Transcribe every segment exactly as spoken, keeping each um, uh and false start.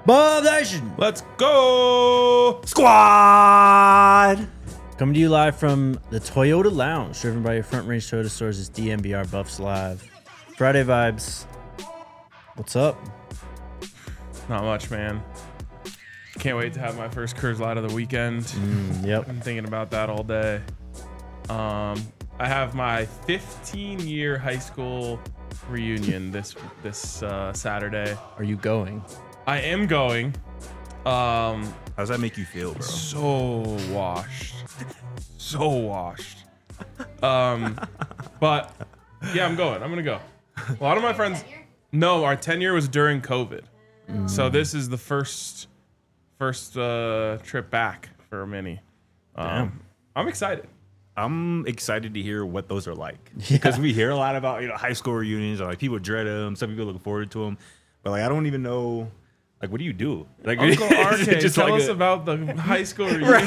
Bob Nation. Let's go, Squad! Coming to you live from the Toyota Lounge, driven by your Front Range Toyota stores. Is D M B R Buffs Live. Friday vibes. What's up? Not much, man. Can't wait to have my first Coors Light of the weekend. Mm, yep. I'm thinking about that all day. Um, I have my fifteen-year high school reunion this this uh, Saturday. Are you going? I am going. Um, How does that make you feel, bro? so washed, so washed. Um, but yeah, I'm going. I'm gonna go. A lot of my friends. No, our ten year was during COVID, Mm. so this is the first first uh, trip back for many. Um, Damn. I'm excited. I'm excited to hear what those are like Yeah. because we hear a lot about you know high school reunions. Or like people dread them, some people look forward to them, but like I don't even know. Like, what do you do? Like, Uncle R K, just tell like us a- about the high school reunion.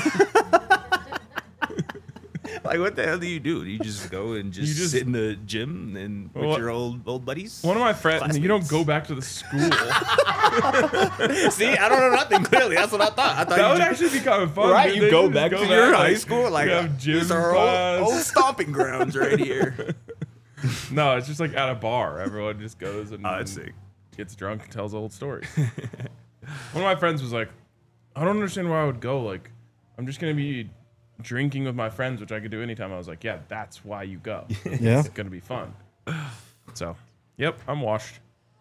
Like, what the hell do you do? Do you just go and just, You just- sit in the gym and with Well, your old old buddies? One of my friends, you don't Classmates. go back to the school. See, I don't know nothing. Clearly, that's what I thought. I thought That you would just, actually be kind of fun. right. dude. You They go should back just to go your back, high like, school, like you have gym these are class. old, old stomping grounds right here. No, it's just like at a bar. Everyone just goes and, Oh, that's and sick. gets drunk and tells old stories. One of my friends was like, I don't understand why I would go. Like, I'm just going to be drinking with my friends, which I could do anytime. I was like, yeah, that's why you go. Yeah. It's going to be fun. So, yep, I'm washed.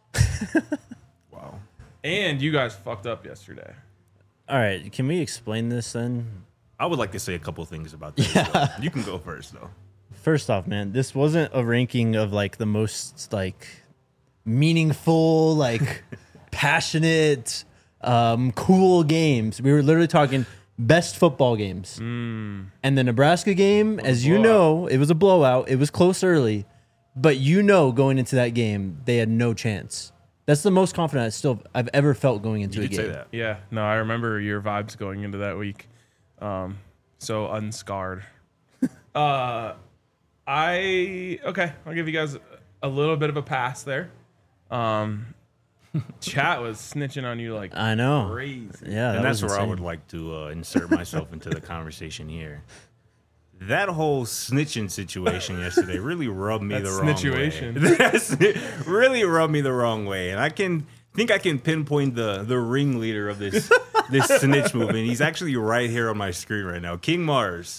Wow. And you guys fucked up yesterday. All right. Can we explain this then? I would like to say a couple things about this. as well. You can go first, though. First off, man, this wasn't a ranking of like the most like meaningful, like passionate, um, cool games. We were literally talking best football games. Mm. And the Nebraska game, as you blowout. know, it was a blowout. It was close early, but you know, going into that game, they had no chance. That's the most confident I still I've ever felt going into You a did game. say that. Yeah, no, I remember your vibes going into that week. Um, so unscarred. uh, I okay. I'll give you guys a little bit of a pass there. Um, chat was snitching on you like I know. crazy. Yeah, that And that's was where I insane. would like to uh, insert myself into the conversation here. That whole snitching situation yesterday really rubbed me That the wrong snitchuation. way. That's really rubbed me the wrong way, and I can think I can pinpoint the the ringleader of this this snitch movement. He's actually right here on my screen right now, King Mars.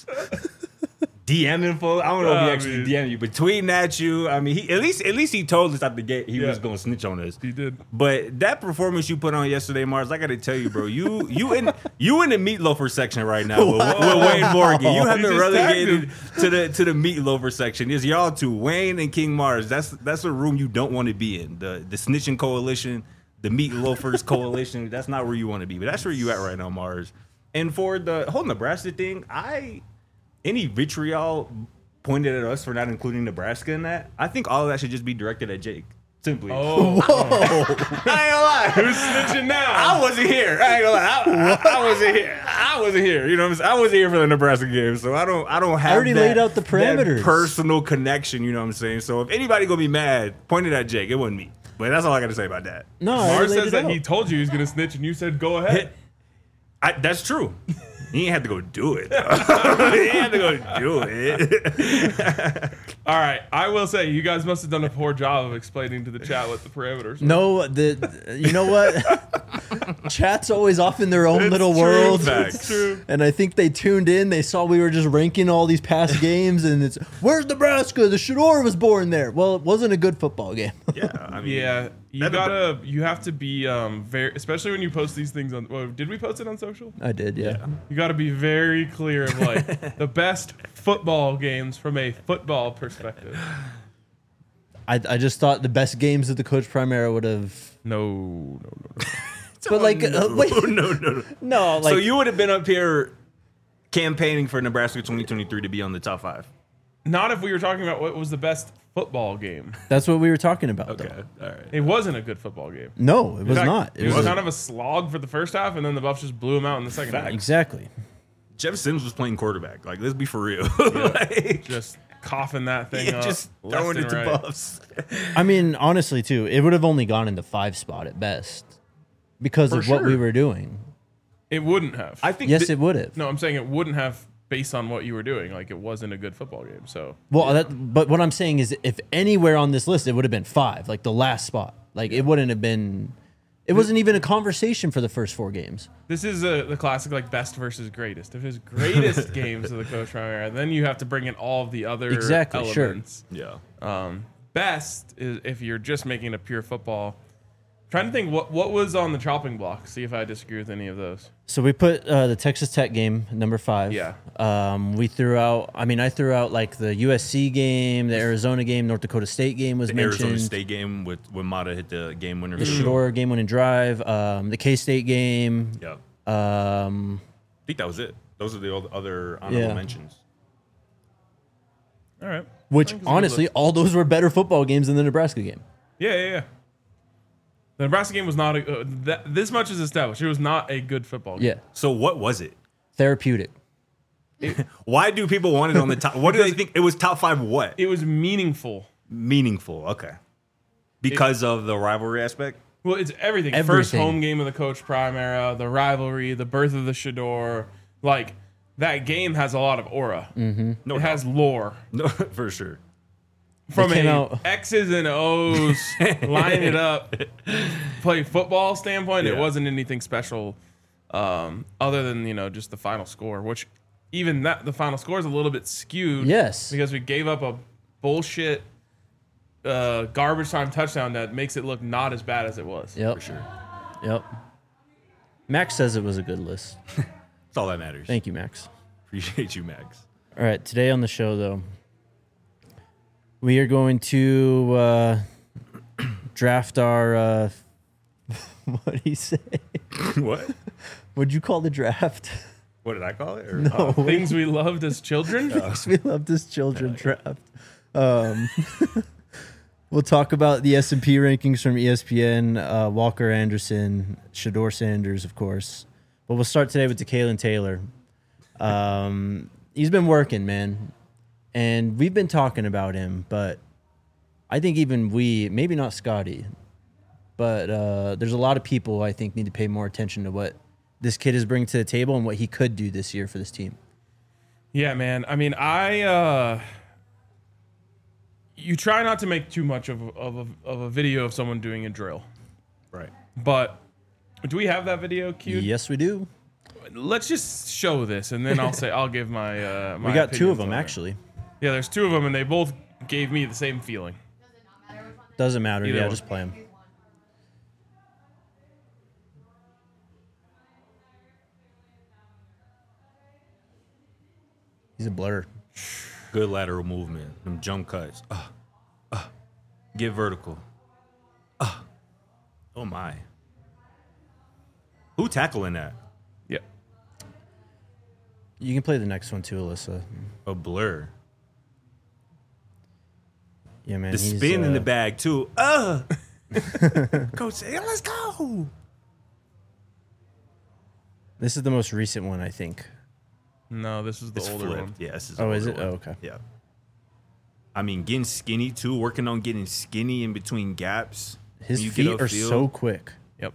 DMing for I don't know if he Oh, actually man. D M'd you, but tweeting at you. I mean, he at least at least he told us at the gate he Yeah. was gonna snitch on us. He did. But that performance you put on yesterday, Mars, I gotta tell you, bro, you you in you in the meatloafer section right now with, with Wayne Morgan. You have He been just tagged relegated to the to the meatloafer section. It's y'all two, Wayne and King Mars. That's that's a room you don't want to be in. The the snitching coalition, the meatloafers coalition. That's not where you want to be. But that's where you at right now, Mars. And for the whole Nebraska thing, I any vitriol pointed at us for not including Nebraska in that, I think all of that should just be directed at Jake. Simply. Oh, I ain't gonna lie. who's snitching now? I wasn't here. I ain't gonna lie. I, I, I wasn't here. I wasn't here. You know what I'm saying? I wasn't here for the Nebraska game, so I don't. I don't have. already that, laid out the that parameters. personal connection. You know what I'm saying? So if anybody gonna be mad, point it at Jake. It wasn't me. But that's all I got to say about that. No, I Mars already laid says it that out. he told you he was gonna snitch, and you said go ahead. I, that's true. He ain't had to go do it. though. He ain't had to go do it. All right, I will say you guys must have done a poor job of explaining to the chat what the parameters were. No, the you know what? Chat's always off in their own It's little true, world. facts. It's true. And I think they tuned in. They saw we were just ranking all these past games, and it's where's Nebraska? The Shador was born there. Well, it wasn't a good football game. Yeah, I mean, Yeah, you That'd be gotta, you have to be um very, especially when you post these things on. Well, did we post it on social? I did, yeah. You got to be very clear of like the best football games from a football perspective. I, I just thought the best games of the Coach Prime era would have. No, no, no, no. But like, no, uh, wait, no, no, no. no, like so you would have been up here campaigning for Nebraska twenty twenty-three to be on the top five. Not if we were talking about what was the best football game. that's what we were talking about. Okay, Though. all right. It wasn't a good football game. No, it was In fact, not. It, was, a- kind of a slog for the first half, and then the Buffs just blew him out in the second half. exactly. Jeff Sims was playing quarterback. Like, let's be for real. like, Just coughing that thing yeah, up. just left throwing and it to right. Buffs. I mean, honestly, too, it would have only gone in the five spot at best. because For of what we sure. were doing. It wouldn't have. I think Yes, thi- it would have. no, I'm saying it wouldn't have based on what you were doing. Like it wasn't a good football game. So Well, that, but what I'm saying is, if anywhere on this list, it would have been five, like the last spot. Like it wouldn't have been. It wasn't even a conversation for the first four games. this is a, the classic like best versus greatest. If his greatest games of the Coach Prime era, then you have to bring in all of the other Exactly, sure. elements. Yeah. Um, best is if you're just making a pure football. Trying to think what what was on the chopping block. See if I disagree with any of those. So we put uh, the Texas Tech game number five. Yeah. Um, we threw out. I mean, I threw out like the U S C game, the Arizona game, North Dakota State game was The mentioned. Arizona State game with when Mata hit the game winner. The field. Shore game winning drive. Um, the K State game. Yeah. Um, I think that was it. Those are the oth- other honorable Yeah. mentions. All right. which I think it's a good honestly, list. all those were better football games than the Nebraska game. Yeah, yeah, yeah. The Nebraska game was not a, uh, that, this much is established. It was not a good football game. Yeah. So what was it? Therapeutic. Why do people want it on the top? What do they think? It was top five what? It was meaningful. Meaningful. Okay. Because of the rivalry aspect? Well, it's everything. First Everything. home game of the Coach Prime era, the rivalry, the birth of the Shador. Like, that game has a lot of aura. Mm-hmm. No it doubt. has lore. No, for sure. From came a out- X's and O's, line it up, play football standpoint, it Yeah. wasn't anything special um, other than, you know, just the final score, which even that, the final score is a little bit skewed. Yes. Because we gave up a bullshit uh, garbage time touchdown that makes it look not as bad as it was. Yep. For sure. Yep. Max says it was a good list. That's all that matters. Thank you, Max. Appreciate you, Max. All right, today on the show, though, we are going to uh, draft our. Uh, what did he say? What? What'd you call the draft? What did I call it? Or, No, Things we loved as children. we love this children draft. Um, we'll talk about the S and P rankings from E S P N, uh, Walker Anderson, Shador Sanders, of course. But we'll start today with DeKalen Taylor. Um, he's been working, man. And we've been talking about him, but I think even we, maybe not Scotty, but uh, there's a lot of people I think need to pay more attention to what this kid is bringing to the table and what he could do this year for this team. Yeah, man. I mean, I uh you try not to make too much of of a, of a video of someone doing a drill, right. but do we have that video queued? Yes, we do. Let's just show this, and then I'll say I'll give my. Uh, my We got two of opinions them, on it. actually. Yeah, there's two of them, and they both gave me the same feeling. Doesn't matter. Either Yeah, one. just play him. He's a blur. Good lateral movement. Them jump cuts. Uh, uh, get vertical. Uh, oh, my. Who tackling that? Yeah. You can play the next one too, Alyssa. A blur. Yeah, man. The he's, spin in uh, the bag, too. Uh. Coach said, "Yeah, let's go." This is the most recent one, I think. No, this is the It's older flipped. one. Yeah, this is Oh, the is older it? one. Oh, okay. Yeah. I mean, getting skinny, too. Working on getting skinny in between gaps. His When you get feet are upfield. so quick. Yep.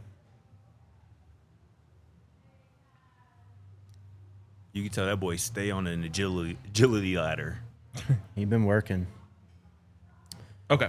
You can tell that boy stay on an agility agility ladder. He's been working. Okay.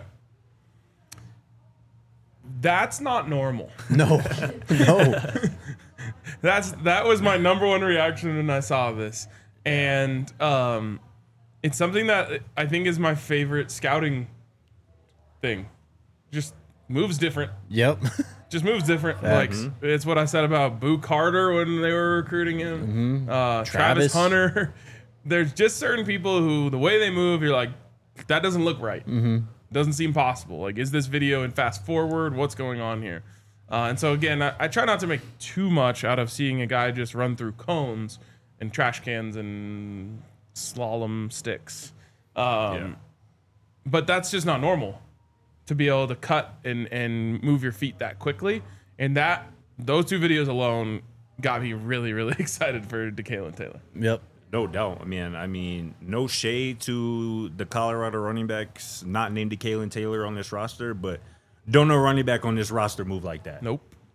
That's not normal. No, no. That's that was my number one reaction when I saw this, and um, it's something that I think is my favorite scouting thing. Just moves different. Yep. Just moves different. Facts. Like it's what I said about Boo Carter when they were recruiting him. Uh, Travis. Travis. Hunter. There's just certain people who the way they move, you're like, that doesn't look right. Mm-hmm. Doesn't seem possible. Like, is this video in fast forward? What's going on here? Uh, and so again, I, I try not to make too much out of seeing a guy just run through cones and trash cans and slalom sticks. Um, Yeah. But that's just not normal to be able to cut and, and move your feet that quickly. And that those two videos alone got me really, really excited for DeKalen Taylor. Yep. No doubt. I mean, I mean, no shade to the Colorado running backs not named DeKalen Taylor on this roster, but don't know running back on this roster move like that. Nope.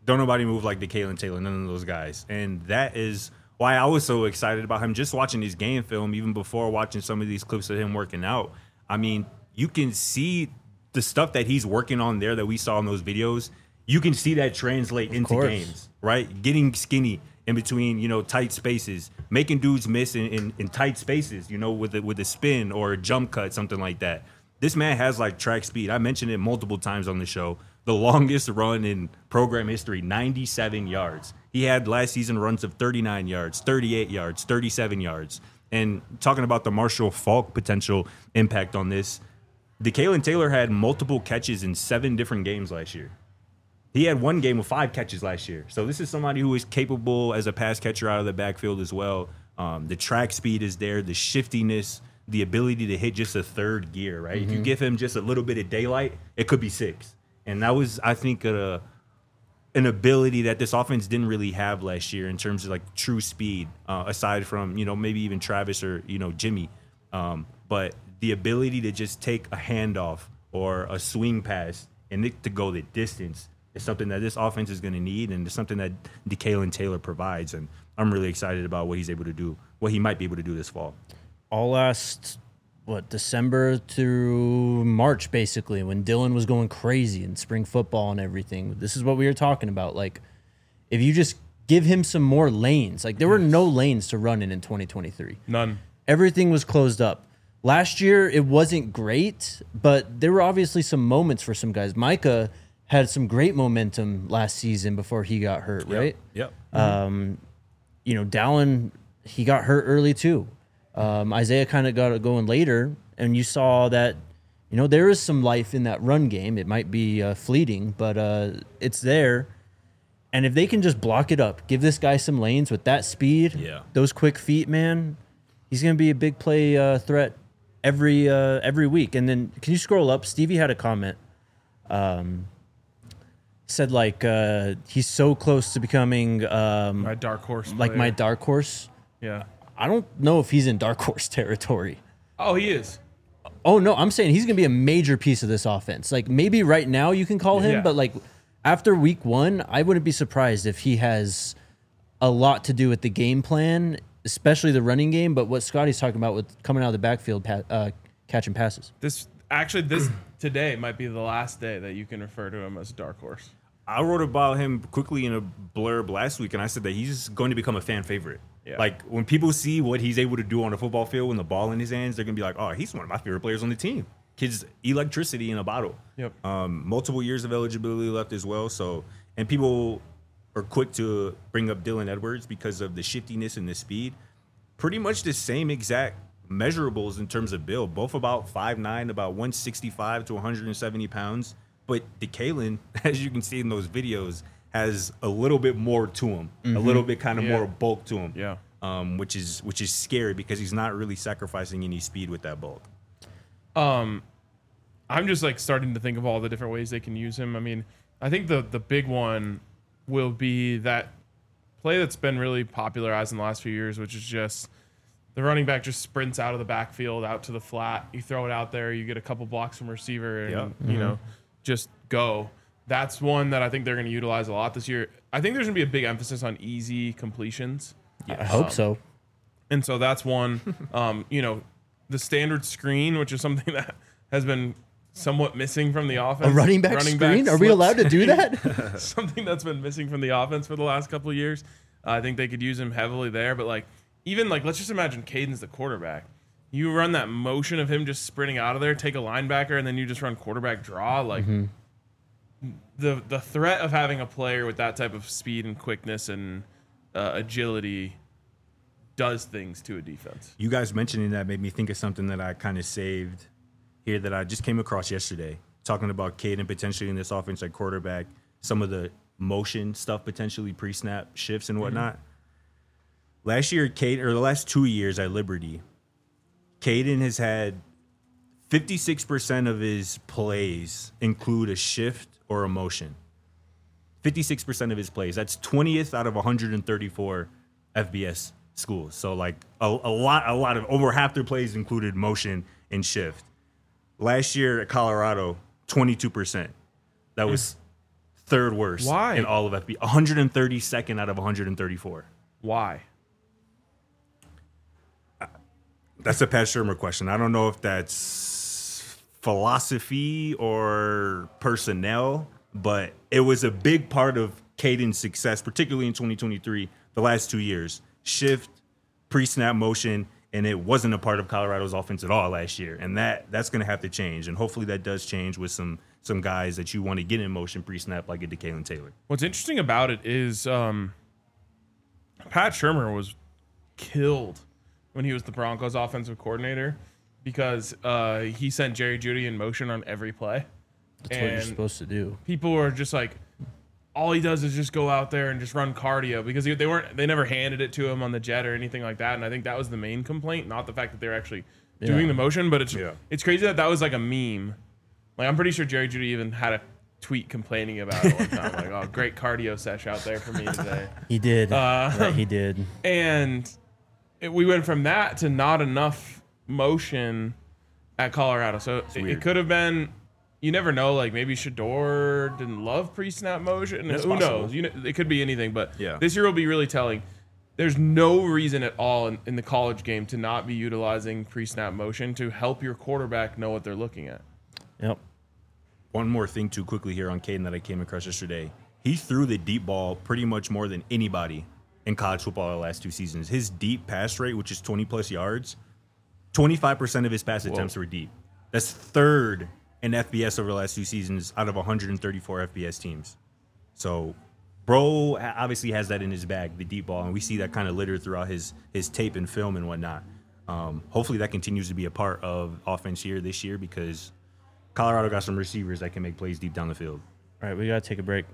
Don't nobody move like the Kalen Taylor, none of those guys. And that is why I was so excited about him just watching his game film, even before watching some of these clips of him working out. I mean, you can see the stuff that he's working on there that we saw in those videos. You can see that translate into course. games, right? Getting skinny in between, you know, tight spaces, making dudes miss in, in, in tight spaces, you know, with a, with a spin or a jump cut, something like that. This man has like track speed. I mentioned it multiple times on the show. The longest run in program history, ninety-seven yards. He had last season runs of thirty-nine yards, thirty-eight yards, thirty-seven yards. And talking about the Marshall Faulk potential impact on this, DeKalen Taylor had multiple catches in seven different games last year. He had one game with five catches last year. So this is somebody who is capable as a pass catcher out of the backfield as well. Um, the track speed is there, the shiftiness, the ability to hit just a third gear, right? Mm-hmm. If you give him just a little bit of daylight, it could be six. And that was, I think, a, an ability that this offense didn't really have last year in terms of like true speed, uh, aside from, you know, maybe even Travis or, you know, Jimmy. Um, but the ability to just take a handoff or a swing pass and it to go the distance is something that this offense is going to need, and it's something that DeKalen Taylor provides. And I'm really excited about what he's able to do, what he might be able to do this fall. All last, what, December through March, basically, when Dylan was going crazy in spring football and everything. This is what we were talking about. Like, if you just give him some more lanes, like there were no lanes to run in in twenty twenty-three. None. Everything was closed up. Last year, it wasn't great, but there were obviously some moments for some guys. Micah had some great momentum last season before he got hurt, right? Yep. Mm-hmm. Um, you know, Dallin, he got hurt early too. Um, Isaiah kind of got it going later, and you saw that, you know, there is some life in that run game. It might be uh, fleeting, but uh, it's there. And if they can just block it up, give this guy some lanes with that speed, yeah. those quick feet, man, he's going to be a big play uh, threat every uh, every week. And then can you scroll up? Stevie had a comment. Um, said like uh, he's so close to becoming um, My dark horse. like player. my dark horse. Yeah. I don't know if he's in dark horse territory. Oh, he is. Oh no, I'm saying he's gonna be a major piece of this offense. Like maybe right now you can call him, Yeah. but like after week one, I wouldn't be surprised if he has a lot to do with the game plan, especially the running game. But what Scotty's talking about with coming out of the backfield, pa- uh, catching passes. This actually this today might be the last day that you can refer to him as a dark horse. I wrote about him quickly in a blurb last week, and I said that he's going to become a fan favorite. Yeah. Like, when people see what he's able to do on the football field with the ball in his hands, they're going to be like, oh, he's one of my favorite players on the team. Kid's electricity in a bottle. Yep. Um, multiple years of eligibility left as well. So, and people are quick to bring up Dylan Edwards because of the shiftiness and the speed. Pretty much the same exact measurables in terms of build, both about five nine, about one sixty-five to one hundred seventy pounds. But DeKalen, as you can see in those videos, has a little bit more to him, mm-hmm. a little bit kind of Yeah. more bulk to him. Yeah. Um, which is which is scary because he's not really sacrificing any speed with that bulk. Um, I'm just like starting to think of all the different ways they can use him. I mean, I think the the big one will be that play that's been really popularized in the last few years, which is just the running back just sprints out of the backfield out to the flat. You throw it out there, you get a couple blocks from receiver, and Yep. you mm-hmm. know, just go. That's one that I think they're going to utilize a lot this year. I think there's going to be a big emphasis on easy completions. I hope so. And so that's one, um, you know, the standard screen, which is something that has been somewhat missing from the offense. A running back running screen? back Are we slip allowed to do screen. that? Something that's been missing from the offense for the last couple of years. Uh, I think they could use him heavily there. But like, even like, let's just imagine Caden's the quarterback. You run that motion of him just sprinting out of there, take a linebacker, and then you just run quarterback draw. Like Mm-hmm. the the threat of having a player with that type of speed and quickness and uh, agility does things to a defense. You guys mentioning that made me think of something that I kind of saved here that I just came across yesterday, talking about Caden potentially in this offense at quarterback, some of the motion stuff potentially pre-snap shifts and whatnot. Mm-hmm. Last year, Caden, or the last two years at Liberty, Caden has had fifty-six percent of his plays include a shift or a motion. fifty-six percent of his plays. That's twentieth out of one hundred thirty-four F B S schools. So like a, a lot, a lot of over half their plays included motion and shift. Last year at Colorado, twenty-two percent. That was third worst Why? in all of F B S. one hundred thirty-second out of one hundred thirty-four. Why? That's a Pat Shermer question. I don't know if that's philosophy or personnel, but it was a big part of Caden's success, particularly in twenty twenty-three, the last two years. Shift, pre-snap motion, and it wasn't a part of Colorado's offense at all last year. And that that's going to have to change. And hopefully that does change with some some guys that you want to get in motion pre-snap like a DeKalen Taylor. What's interesting about it is um, Pat Shermer was killed when he was the Broncos offensive coordinator because uh, he sent Jerry Jeudy in motion on every play. That's and what you're supposed to do. People were just like, all he does is just go out there and just run cardio because they weren't, they never handed it to him on the jet or anything like that. And I think that was the main complaint, not the fact that they're actually Yeah. doing the motion, but it's Yeah. it's crazy that that was like a meme. Like I'm pretty sure Jerry Jeudy even had a tweet complaining about it one time, like, "Oh, great cardio sesh out there for me today." He did. Uh, Right, he did. And it, we went from that to not enough motion at Colorado. So it, weird. it could have been. You never know. Like maybe Shador didn't love pre-snap motion. That's Who possible. knows? You know, it could be anything. But Yeah. this year will be really telling. There's no reason at all in, in the college game to not be utilizing pre-snap motion to help your quarterback know what they're looking at. Yep. One more thing too quickly here on Caden that I came across yesterday. He threw the deep ball pretty much more than anybody in college football the last two seasons. His deep pass rate, which is twenty plus yards, twenty-five percent of his pass attempts were deep. That's third in F B S over the last two seasons out of one hundred thirty-four F B S teams. So, bro obviously has that in his bag, the deep ball, and we see that kind of littered throughout his his tape and film and whatnot. Um, hopefully that continues to be a part of offense here this year because Colorado got some receivers that can make plays deep down the field. All right, we got to take a break.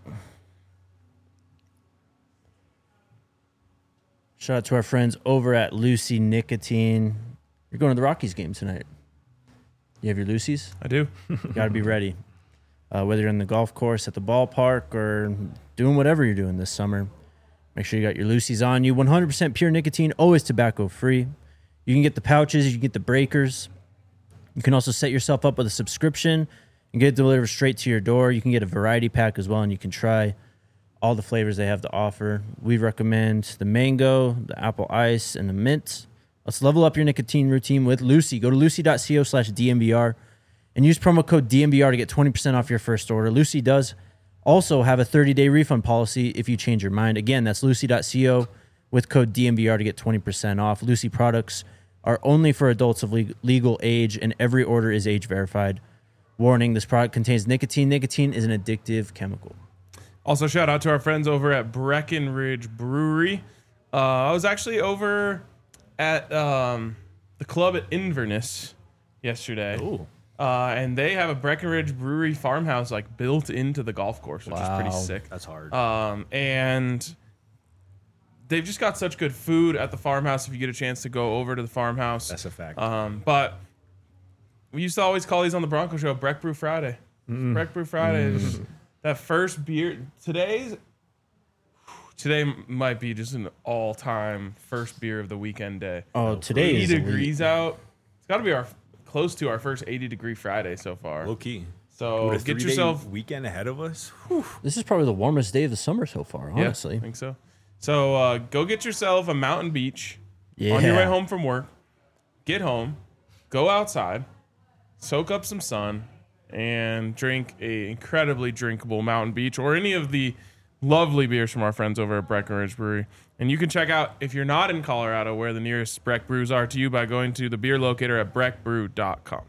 Shout out to our friends over at Lucy Nicotine. You're going to the Rockies game tonight. You have your Lucy's? I do. You got to be ready. Uh, whether you're in the golf course, at the ballpark, or doing whatever you're doing this summer, make sure you got your Lucy's on you. one hundred percent pure nicotine, always tobacco free. You can get the pouches, you can get the breakers. You can also set yourself up with a subscription and get it delivered straight to your door. You can get a variety pack as well, and you can try all the flavors they have to offer. We recommend the mango, the apple ice, and the mint. Let's level up your nicotine routine with Lucy. Go to lucy.co slash DNVR and use promo code D N V R to get twenty percent off your first order. Lucy does also have a thirty-day refund policy if you change your mind. Again, that's lucy.co with code D N V R to get twenty percent off. Lucy products are only for adults of leg- legal age, and every order is age verified. Warning, this product contains nicotine. Nicotine is an addictive chemical. Also, shout out to our friends over at Breckenridge Brewery. Uh, I was actually over at um, the club at Inverness yesterday. Ooh. Uh, and they have a Breckenridge Brewery farmhouse like built into the golf course, which is pretty Wow. sick. That's hard. Um, and they've just got such good food at the farmhouse if you get a chance to go over to the farmhouse. That's a fact. Um, but we used to always call these on the Bronco Show Breck Brew Friday. Breck Brew Friday is that first beer. Today's today might be just an all-time first beer of the weekend day. Oh, today eighty is elite. degrees out. It's got to be our close to our first eighty degree Friday so far. Low key. So With a get three-day yourself. weekend ahead of us. This is probably the warmest day of the summer so far, Yeah, honestly. I think so. So uh, go get yourself a mountain beach Yeah. on your way home from work. Get home, go outside, soak up some sun, and drink a incredibly drinkable Mountain Beach or any of the lovely beers from our friends over at Breckenridge Brewery. And you can check out, if you're not in Colorado, where the nearest Breck Brews are to you by going to the beer locator at breck brew dot com.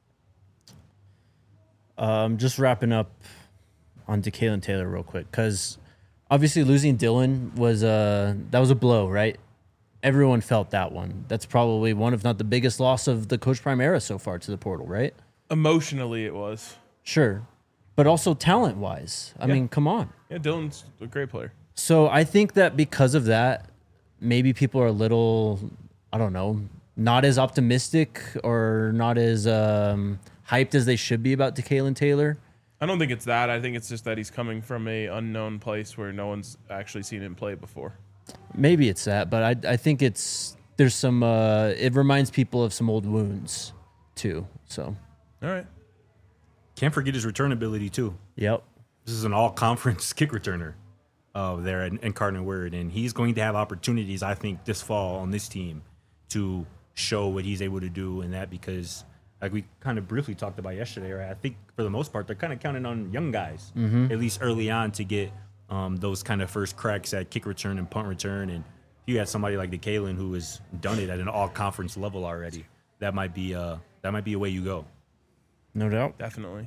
Um, just wrapping up on DeKalen Taylor real quick, because obviously losing Dylan was a that was a blow, right? Everyone felt that one. That's probably one, if not the biggest loss of the Coach Prime era so far to the portal, right? Emotionally, it was. Sure, but also talent wise. I Yeah. mean, come on. Yeah, Dylan's a great player. So I think that because of that, maybe people are a little, I don't know, not as optimistic or not as um, hyped as they should be about DeKalen Taylor. I don't think it's that. I think it's just that he's coming from a unknown place where no one's actually seen him play before. Maybe it's that, but I I think it's there's some uh, it reminds people of some old wounds too. So All right. Can't forget his return ability too. yep, this is an all-conference kick returner uh, there in, in Cardinal Word, and he's going to have opportunities, I think, this fall on this team to show what he's able to do in that because, like we kind of briefly talked about yesterday, right? I think for the most part, they're kind of counting on young guys, mm-hmm. at least early on, to get um, those kind of first cracks at kick return and punt return. And if you had somebody like DeKalen who has done it at an all-conference level already, that might be uh, that might be a way you go. No doubt. Definitely.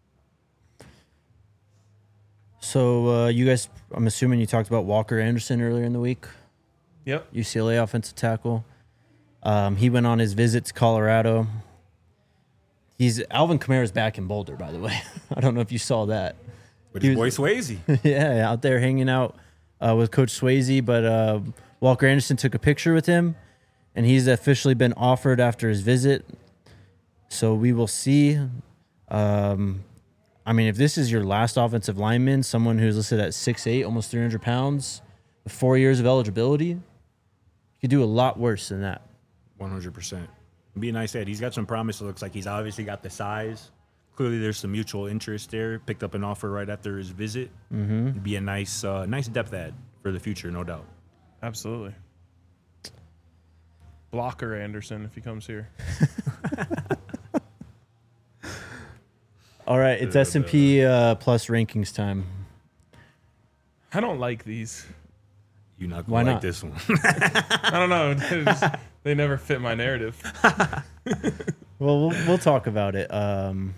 So uh, you guys, I'm assuming you talked about Walker Anderson earlier in the week. Yep. U C L A offensive tackle. Um, he went on his visit to Colorado. He's Alvin Kamara's back in Boulder, by the way. I don't know if you saw that. With He his boy was- Swayze. yeah, out there hanging out uh, with Coach Swayze. But uh, Walker Anderson took a picture with him, and he's officially been offered after his visit. So we will see. Um, I mean, if this is your last offensive lineman, someone who's listed at six eight, almost three hundred pounds, with four years of eligibility, you could do a lot worse than that. one hundred percent. Be a nice head. He's got some promise. It looks like he's obviously got the size. Clearly, there's some mutual interest there. Picked up an offer right after his visit. Mm-hmm. It'd be a nice, uh, nice depth add for the future, no doubt. Absolutely. Blocker Anderson if he comes here. All right, it's S and P uh, plus rankings time. I don't like these. You're not Why going to like not? this one. I don't know. They, just, they never fit my narrative. Well, we'll we'll talk about it. Um,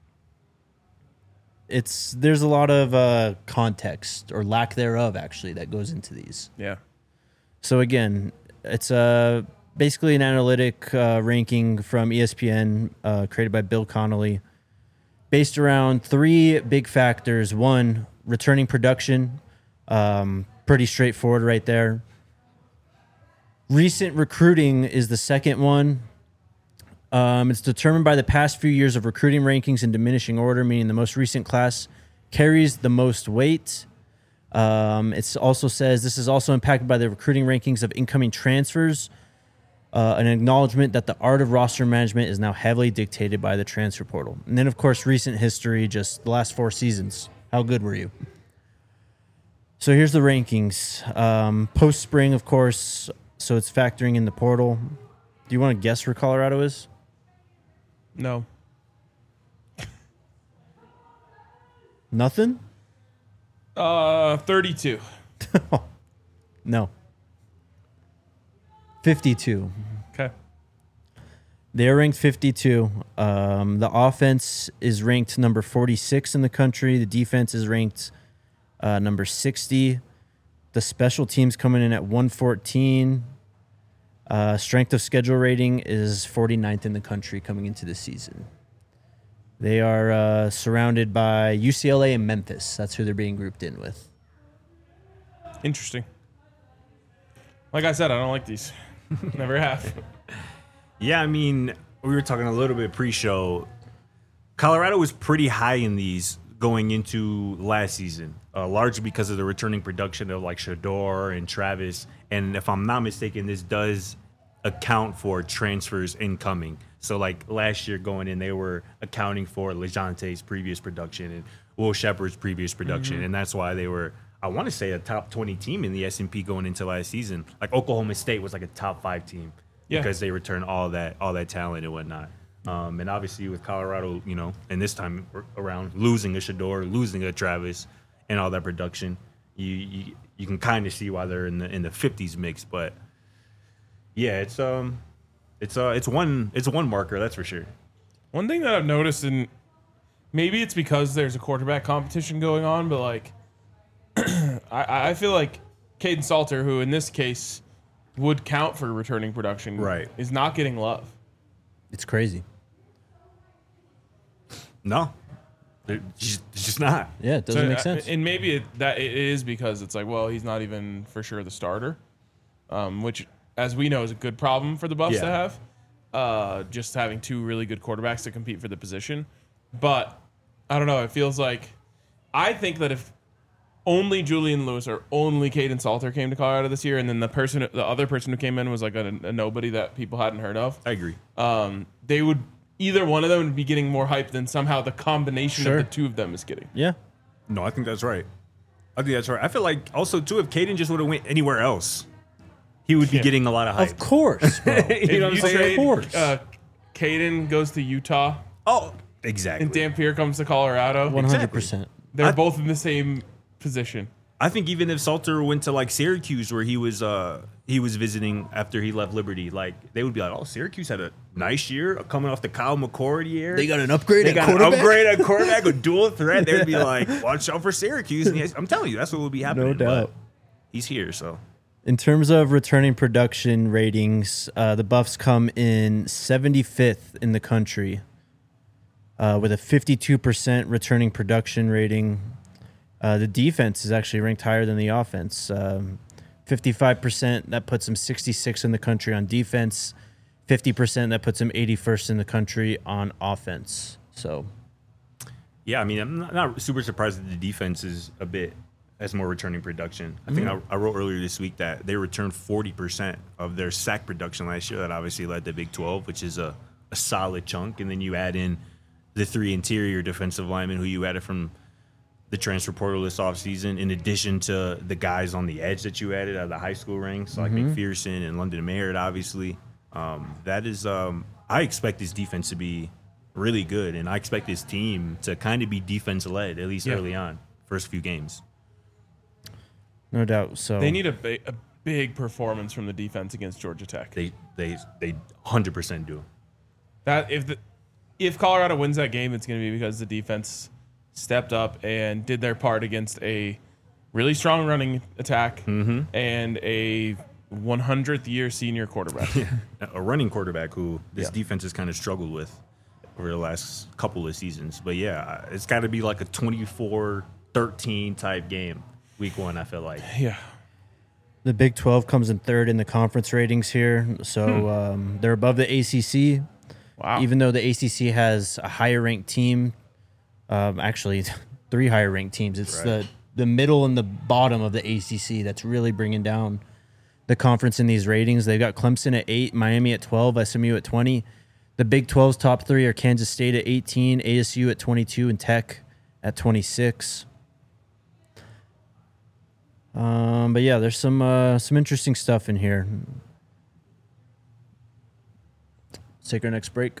it's there's a lot of uh, context or lack thereof actually that goes into these. Yeah. So again, it's uh, basically an analytic uh, ranking from E S P N uh, created by Bill Connolly, based around three big factors. One, returning production, um, pretty straightforward right there. Recent recruiting is the second one. Um, it's determined by the past few years of recruiting rankings in diminishing order, meaning the most recent class carries the most weight. Um, it also says this is also impacted by the recruiting rankings of incoming transfers, uh, an acknowledgement that the art of roster management is now heavily dictated by the transfer portal. And then, of course, recent history, just the last four seasons. How good were you? So here's the rankings. Um, post-spring, of course, so it's factoring in the portal. Do you want to guess where Colorado is? No. Nothing? Uh, thirty-two. No. fifty-two. Okay. They're ranked fifty-two. Um, the offense is ranked number forty-six in the country. The defense is ranked uh, number sixty. The special teams coming in at one fourteen. Uh, strength of schedule rating is forty-ninth in the country coming into the season. They are uh, surrounded by U C L A and Memphis. That's who they're being grouped in with. Interesting. Like I said, I don't like these. Never have. Yeah, I mean, we were talking a little bit pre-show. Colorado was pretty high in these going into last season, uh, largely because of the returning production of like Shador and Travis. And if I'm not mistaken, this does account for transfers incoming. So like last year going in, they were accounting for LeJonte's previous production and Will Shepard's previous production. Mm-hmm. And that's why they were, I want to say, a top twenty team in the S and P going into last season. Like Oklahoma State was like a top five team yeah. because they returned all that all that talent and whatnot. Um, and obviously with Colorado, you know, and this time around losing a Shador, losing a Travis, and all that production, you you, you can kind of see why they're in the in the fifties mix. But yeah, it's um, it's uh, it's one it's one marker, that's for sure. One thing that I've noticed, and maybe it's because there's a quarterback competition going on, but like, I I feel like Caden Salter, who in this case would count for returning production, right, is not getting love. It's crazy. No, it's just, it's just not. Yeah, it doesn't So, make uh, sense. And maybe it, that it is because it's like, well, he's not even for sure the starter, um, which, as we know, is a good problem for the Buffs Yeah. to have. Uh, just having two really good quarterbacks to compete for the position. But I don't know. It feels like I think that if only Julian Lewis or only Caden Salter came to Colorado this year, and then the person, the other person who came in was like a, a nobody that people hadn't heard of. I agree. Um, they would either one of them would be getting more hype than somehow the combination Sure. of the two of them is getting. Yeah. No, I think that's right. I think that's right. I feel like also too, if Caden just would have went anywhere else, he would be Yeah. getting a lot of hype. Of course, bro. you know what I'm If you saying? trade, Of course. Uh, Caden goes to Utah Oh, exactly. and Dampier comes to Colorado. One hundred percent. They're I- both in the same position. I think even if Salter went to like Syracuse, where he was uh he was visiting after he left Liberty, like they would be like, oh, Syracuse had a nice year coming off the Kyle McCord year. They got an upgrade They at got quarterback. an upgrade at quarterback, a dual threat. They'd be like, watch out for Syracuse. And yes, I'm telling you, that's what will be happening. No doubt. But he's here, so In terms of returning production ratings, uh, the Buffs come in seventy-fifth in the country uh, with a fifty-two percent returning production rating. Uh, the defense is actually ranked higher than the offense. Um, fifty-five percent, that puts them sixty-sixth in the country on defense. fifty percent, that puts them eighty-first in the country on offense. So, yeah. I mean, I'm not, not super surprised that the defense is a bit as more returning production. I think I, I wrote earlier this week that they returned forty percent of their sack production last year. That obviously led the Big twelve, which is a, a solid chunk. And then you add in the three interior defensive linemen who you added from the transfer portal this offseason, in addition to the guys on the edge that you added out of the high school ranks, like McPherson and London Merritt, obviously. Um, that is, um, I expect this defense to be really good, and I expect this team to kind of be defense-led, at least Yeah. early on, first few games. no doubt. So They need a, ba- a big performance from the defense against Georgia Tech. They they they one hundred percent do. That if the if Colorado wins that game, it's going to be because the defense stepped up and did their part against a really strong running attack Mm-hmm. and a hundredth year senior quarterback. A running quarterback who this Yeah. defense has kind of struggled with over the last couple of seasons. But yeah, it's got to be like a twenty-four thirteen type game week one, I feel like. Yeah. the Big twelve comes in third in the conference ratings here. So um, they're above the A C C. Wow. Even though the A C C has a higher ranked team, um, actually three higher ranked teams. It's Right. the the middle and the bottom of the A C C that's really bringing down the conference in these ratings. They've got Clemson at eight, Miami at twelve, S M U at twenty. The Big twelve's top three are Kansas State at eighteen, A S U at twenty-two, and Tech at twenty-six. Um, but yeah, there's some uh, some interesting stuff in here. Let's take our next break.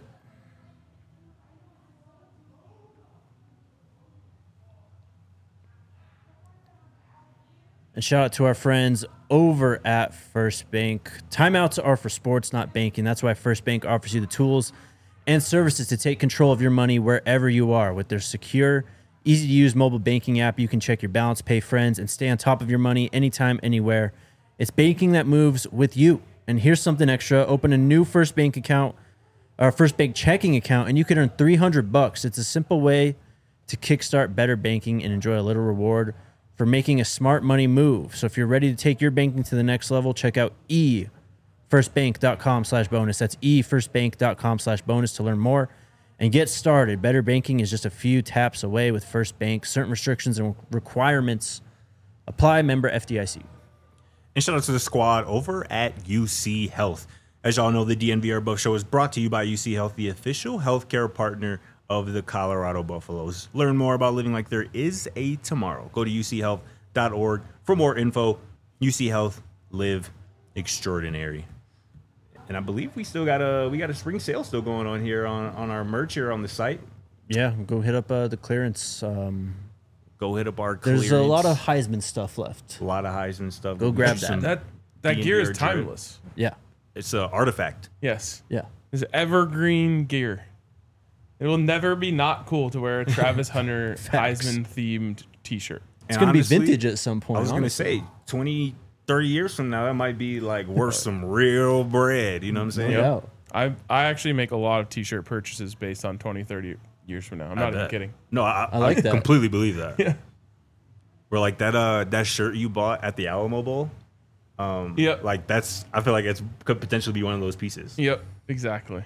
And shout out to our friends over at First Bank. Timeouts are for sports, not banking. That's why First Bank offers you the tools and services to take control of your money wherever you are. With their secure, easy-to-use mobile banking app, you can check your balance, pay friends, and stay on top of your money anytime, anywhere. It's banking that moves with you. And here's something extra. Open a new First Bank account, or First Bank checking account, and you can earn three hundred bucks. It's a simple way to kickstart better banking and enjoy a little reward for making a smart money move. So if you're ready to take your banking to the next level, check out e first bank dot com slash bonus. That's e first bank dot com slash bonus to learn more and get started. Better banking is just a few taps away with First Bank. Certain restrictions and requirements apply. Member F D I C. And shout out to the squad over at U C Health. As y'all know, the D N V R Buff Show is brought to you by U C Health, the official healthcare partner of the Colorado Buffaloes. Learn more about living like there is a tomorrow. Go to u c health dot org for more info. U C Health, live extraordinary. And I believe we still got a we got a spring sale still going on here on, on our merch here on the site. Yeah, go hit up uh, the clearance. Um, Go hit up our there's clearance. a lot of Heisman stuff left. a lot of Heisman stuff. Go grab Some- That that D N V gear is R drip. timeless. Yeah, It's an artifact. Yes. yeah. It's evergreen gear. It will never be not cool to wear a Travis Hunter Facts. Heisman themed t-shirt. It's And going to be honestly, vintage at some point. I was going to honestly. say twenty, thirty years from now, that might be like worth some real bread. You know what I'm saying? No doubt. I I actually make a lot of t-shirt purchases based on twenty, thirty years from now. I'm not I even bet. kidding. No, I, I like I that. completely believe that. Yeah. Where like that uh that shirt you bought at the Alamo Bowl, um, Yep. like that's I feel like it's could potentially be one of those pieces. Yep. Exactly.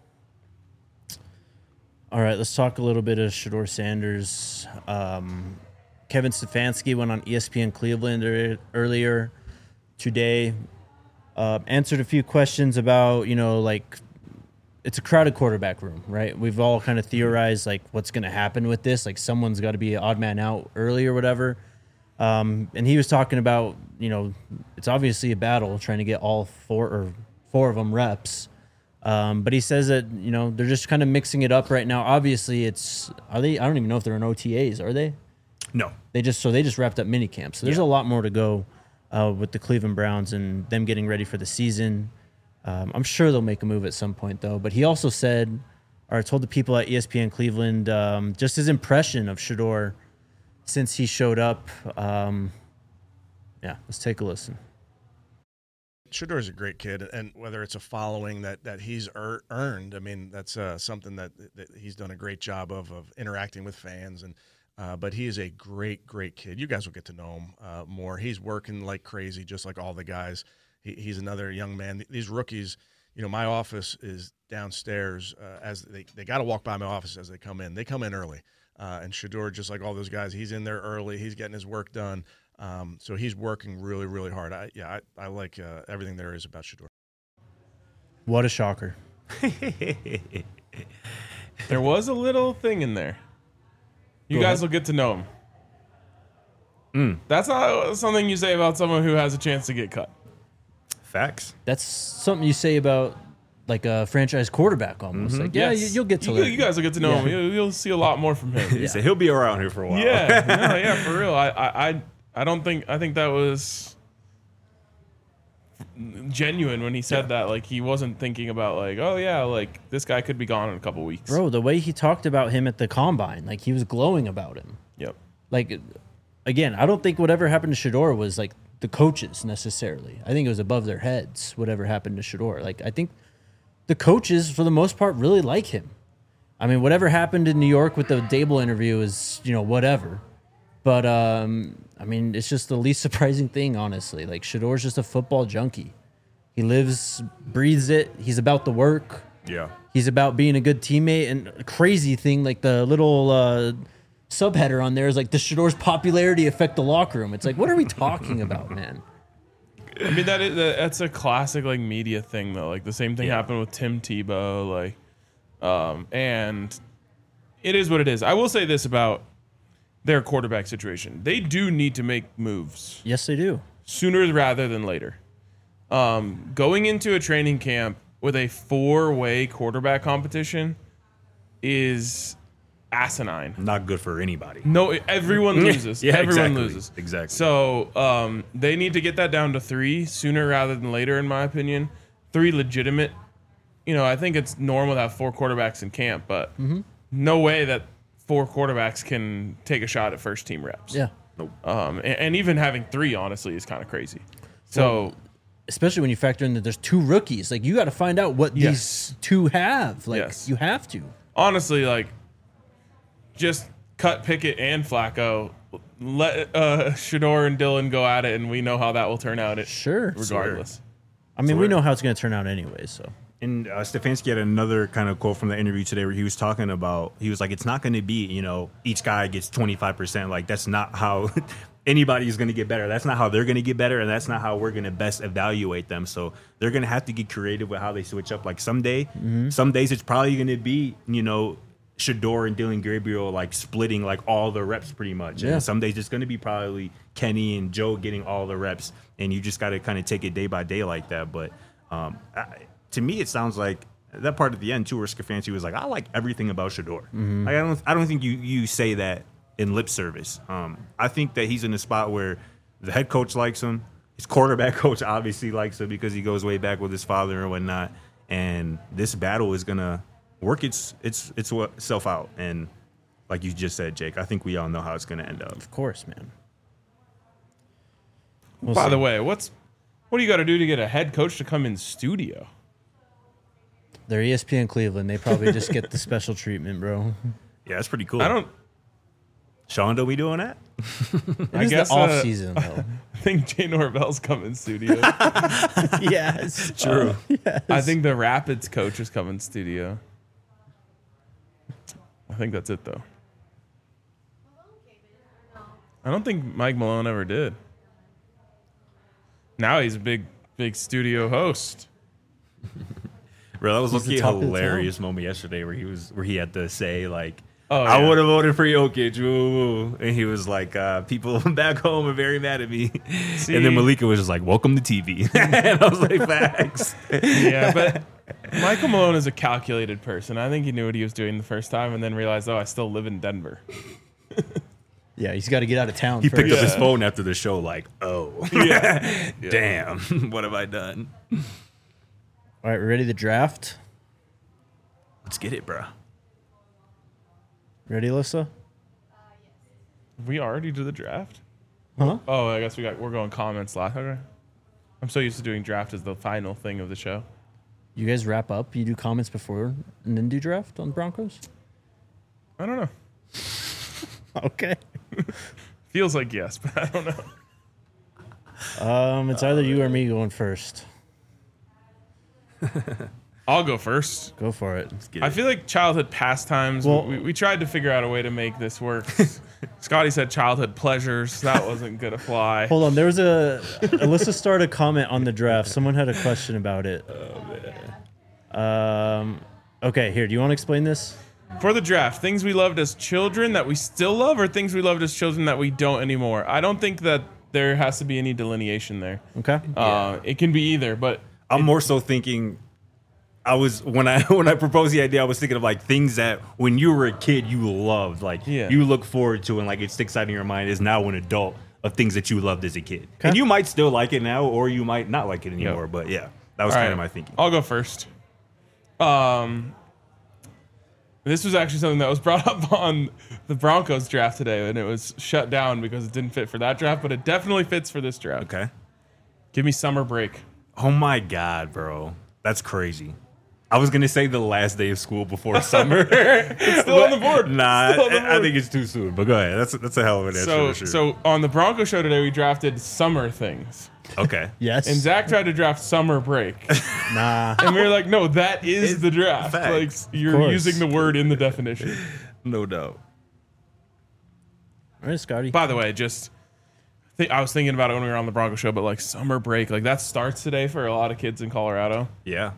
All right, let's talk a little bit of Shedeur Sanders. Um, Kevin Stefanski went on E S P N Cleveland er- earlier today, uh, answered a few questions about, you know, like it's a crowded quarterback room, right? We've all kind of theorized like what's going to happen with this. Like someone's got to be an odd man out early or whatever. Um, and he was talking about, you know, it's obviously a battle trying to get all four or four of them reps. Um, but he says that, you know, they're just kind of mixing it up right now. Obviously, it's are they? I don't even know if they're in O T As. Are they? No. They just so they just wrapped up mini camp. So there's Yeah. a lot more to go uh, with the Cleveland Browns and them getting ready for the season. Um, I'm sure they'll make a move at some point, though. But he also said, or told the people at E S P N Cleveland, um, just his impression of Shedeur since he showed up. Um, yeah, let's take a listen. Shedeur is a great kid, and whether it's a following that that he's er- earned, I mean, that's uh, something that, that he's done a great job of of interacting with fans. And uh, but he is a great, great kid. You guys will get to know him uh, more. He's working like crazy, just like all the guys. He, he's another young man. These rookies, you know, my office is downstairs. Uh, as they they got to walk by my office as they come in. They come in early, uh, and Shedeur, just like all those guys, he's in there early. He's getting his work done. Um, so he's working really, really hard. I, yeah, I, I like uh, everything there is about Shedeur. What a shocker. There was a little thing in there. You Go guys ahead. will get to know him. Mm. That's not something you say about someone who has a chance to get cut. Facts. That's something you say about like a franchise quarterback almost. Like, yeah, Yes. you, you'll get to you, learn. you guys will get to know Yeah. him. You'll, you'll see a lot more from him. He said he'll be around here for a while. Yeah, no, yeah, for real. I, I, I, I don't think. I think that was genuine when he said that. Like he wasn't thinking about like, oh yeah, like this guy could be gone in a couple weeks. Bro, the way he talked about him at the combine, like he was glowing about him. Yep. Like, again, I don't think whatever happened to Shedeur was like the coaches necessarily. I think it was above their heads, whatever happened to Shedeur. Like, I think the coaches, for the most part, really like him. I mean, whatever happened in New York with the Dable interview is, you know, whatever. But, um, I mean, it's just the least surprising thing, honestly. Like, Shedeur's just a football junkie. He lives, breathes it. He's about the work. Yeah. He's about being a good teammate. And a crazy thing, like the little uh, subheader on there is like, does Shedeur's popularity affect the locker room? It's like, what are we talking about, man? I mean that is that's a classic like media thing though. Like the same thing Yeah. happened with Tim Tebow. Like, um, and it is what it is. I will say this about their quarterback situation: they do need to make moves Yes, they do. sooner rather than later. Um, going into a training camp with a four-way quarterback competition is asinine. Not good for anybody. No, everyone loses. Yeah, everyone exactly. loses. Exactly. So um, they need to get that down to three sooner rather than later, in my opinion. Three legitimate. You know, I think it's normal to have four quarterbacks in camp, but no way that four quarterbacks can take a shot at first team reps. Yeah. Um, and, and even having three, honestly, is kind of crazy. So Especially when you factor in that there's two rookies. Like, you got to find out what Yes. these two have. Like, Yes. you have to. honestly, like, just cut Pickett and Flacco. Let uh, Shedeur and Dylan go at it, and we know how that will turn out. It Sure. regardless. I mean, So we we're- know how it's going to turn out anyway, so. And uh, Stefanski had another kind of quote from the interview today where he was talking about, he was like, it's not going to be, you know, each guy gets twenty-five percent. Like, that's not how anybody is going to get better. That's not how they're going to get better. And that's not how we're going to best evaluate them. So they're going to have to get creative with how they switch up. Like, someday, some days it's probably going to be, you know, Shedeur and Dylan Gabriel like splitting like all the reps pretty much. Yeah. And some days it's going to be probably Kenny and Joe getting all the reps. And you just got to kind of take it day by day like that. But um, I, to me, it sounds like that part at the end too, where Stefanski was like, "I like everything about Shedeur." Mm-hmm. Like, I don't, I don't think you you say that in lip service. Um, I think that he's in a spot where the head coach likes him, his quarterback coach obviously likes him because he goes way back with his father and whatnot. And this battle is gonna work its its its itself out. And like you just said, Jake, I think we all know how it's gonna end up. Of course, man. We'll By see. the way, what's what do you got to do to get a head coach to come in studio? They're E S P N Cleveland. They probably just get the special treatment, bro. Yeah, that's pretty cool. I don't. Sean, don't be doing that? I It is guess the off uh, season though. I think Jay Norvell's coming studio. Yes. True. I think the Rapids coach is coming studio. I think that's it though. I don't think Mike Malone ever did. Now he's a big, big studio host. Bro, that was He's the looking a talk of the hilarious moment yesterday where he was where he had to say like, Oh, I yeah. would have voted for Jokic, woo. And he was like, uh, people back home are very mad at me. See? And then Malika was just like, welcome to T V. And I was like, facts. Yeah, but Michael Malone is a calculated person. I think he knew what he was doing the first time and then realized, oh, I still live in Denver. Yeah, he's got to get out of town He first. picked up his Yeah. phone after the show like, oh, Yeah. damn, what have I done? All right, we ready to draft? Let's get it, bro. Ready, Alyssa? We already did the draft? Huh? Oh, I guess we got we're going comments last. Okay. I'm so used to doing draft as the final thing of the show. You guys wrap up. You do comments before and then do draft on Broncos. I don't know. Okay. Feels like yes, but I don't know. Um, it's either you or me going first. I'll go first. Go for it. Let's get I it. feel like childhood pastimes. Well- we, we tried to figure out a way to make this work. Scotty said childhood pleasures. That wasn't gonna fly. Hold on. There was a Alyssa started a comment on the draft. Someone had a question about it. Oh man. Um. Okay. Here. Do you want to explain this? For the draft, things we loved as children that we still love, or things we loved as children that we don't anymore. I don't think that there has to be any delineation there. Okay. Uh, it can be either, but I'm more so thinking. I was when I when I proposed the idea, I was thinking of like things that when you were a kid you loved, like Yeah. you look forward to, and like it sticks out in your mind. Is now an adult of things that you loved as a kid, Okay. and you might still like it now, or you might not like it anymore. But yeah, that was All kind right, of my thinking. I'll go first. Um, this was actually something that was brought up on the Broncos draft today, and it was shut down because it didn't fit for that draft, but it definitely fits for this draft. Okay. Give me summer break. Oh my god, bro, that's crazy. I was gonna say the last day of school before summer. It's still on the board. Nah, Still on the I, I board. think it's too soon. But go ahead. That's that's a hell of an answer. So, for sure. so on the Bronco show today, we drafted summer things, okay. Yes. and Zach tried to draft summer break, Nah. and we were like, "No, that is It's the draft. facts. Like you're course. using the word in the definition." No doubt. All right, Scotty. By the way, just th- I was thinking about it when we were on the Bronco show, but like summer break, like that starts today for a lot of kids in Colorado. Yeah.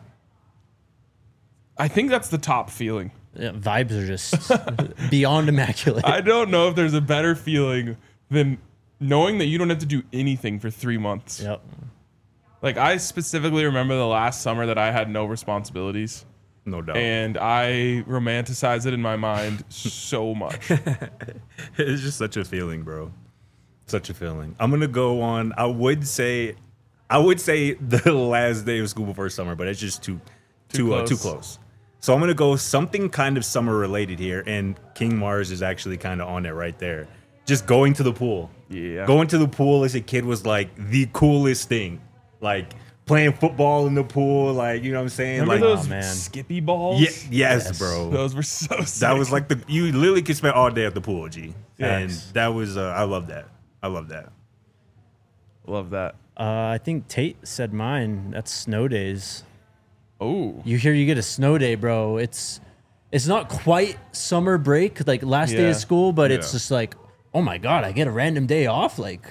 I think that's the top feeling. Yeah, vibes are just beyond immaculate. I don't know if there's a better feeling than knowing that you don't have to do anything for three months. Yep. Like I specifically remember the last summer that I had no responsibilities, No doubt. and I romanticize it in my mind so much. It's just such a feeling, bro. Such a feeling. I'm gonna go on. I would say, I would say the last day of school before summer, but it's just too, too, Too uh, too close. close. So I'm gonna go something kind of summer related here, and King Mars is actually kind of on it right there. Just going to the pool. Yeah. Going to the pool as a kid was like the coolest thing. Like playing football in the pool, like you know what I'm saying. Remember like those Oh, man. Skippy balls? yeah, yes, Yes. bro. Those were so sick. That was like the you literally could spend all day at the pool, G. And Facts. that was uh, I love that. I love that. Love that. Uh, I think Tate said mine. That's snow days. Oh. You hear you get a snow day, bro. It's it's not quite summer break, like last day Yeah. of school, but it's Yeah. just like, oh my god, I get a random day off. Like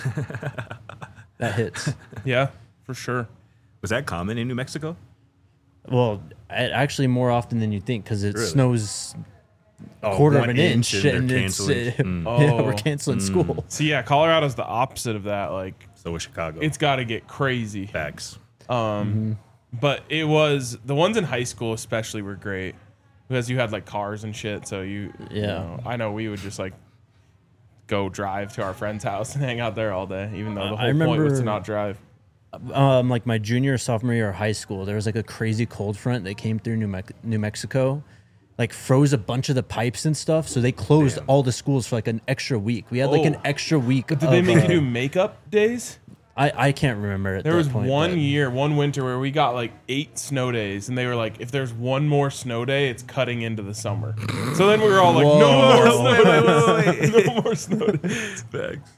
that hits. Yeah, for sure. Was that common in New Mexico? Well, a- actually, more often than you think because it Really? snows Oh, quarter of one an inch, and they're and it's uh, canceling. Mm. yeah, Oh. we're canceling school. So yeah, Colorado's the opposite of that. Like So was Chicago. it's got to get crazy. facts. Um, but it was the ones in high school especially were great because you had like cars and shit. So you, you Yeah. know, I know we would just like go drive to our friend's house and hang out there all day, even though the I whole point was to remember- not drive. Um, like my junior, sophomore year of high school, there was like a crazy cold front that came through New, Me- New Mexico, like froze a bunch of the pipes and stuff. So they closed Damn. all the schools for like an extra week. We had like an Oh. extra week. Did they of, make uh, you do makeup days? I, I can't remember at There that was point, one but- year, one winter where we got like eight snow days, and they were like, if there's one more snow day, it's cutting into the summer. So then we were all like, no more snow days. No more snow days. Facts.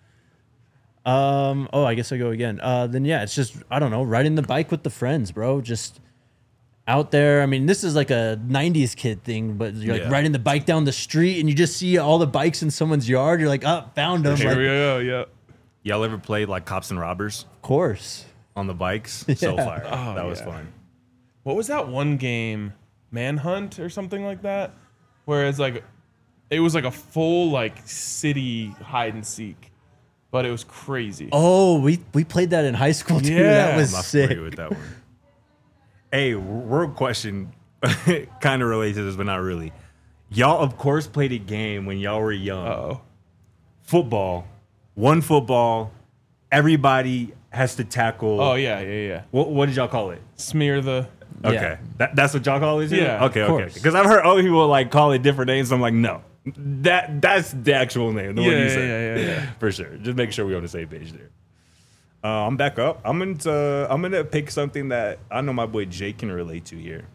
Um. Oh, I guess I go again. Uh. Then yeah, it's just I don't know, riding the bike with the friends, bro. Just out there. I mean, this is like a nineties kid thing, but you're like Yeah. riding the bike down the street, and you just see all the bikes in someone's yard. You're like, oh, found them. Here Like, we go, yeah. Y'all ever played like cops and robbers of course. on the bikes? So Yeah. fire. Oh, that was yeah. fun. what was that one game, Manhunt or something like that, where it's like, it was like a full like city hide and seek, but it was crazy. Oh, we we played that in high school too. Yeah. That was I'm not sick. familiar with that one. Hey, real question, kind of related to this, but not really. Y'all, of course, played a game when y'all were young. Uh-oh. Football, one football, everybody has to tackle. Oh yeah, yeah, yeah. What, what did y'all call it? Smear the. Okay, Yeah. that, that's what y'all call it. Too? Yeah, Okay, of okay. course. Because I've heard other people like call it different names. So I'm like, no, that that's the actual name. The Yeah, one you yeah, said. yeah, yeah, yeah. For sure. Just make sure we're on the same page there. Uh, I'm back up. I'm gonna I'm gonna pick something that I know my boy Jake can relate to here.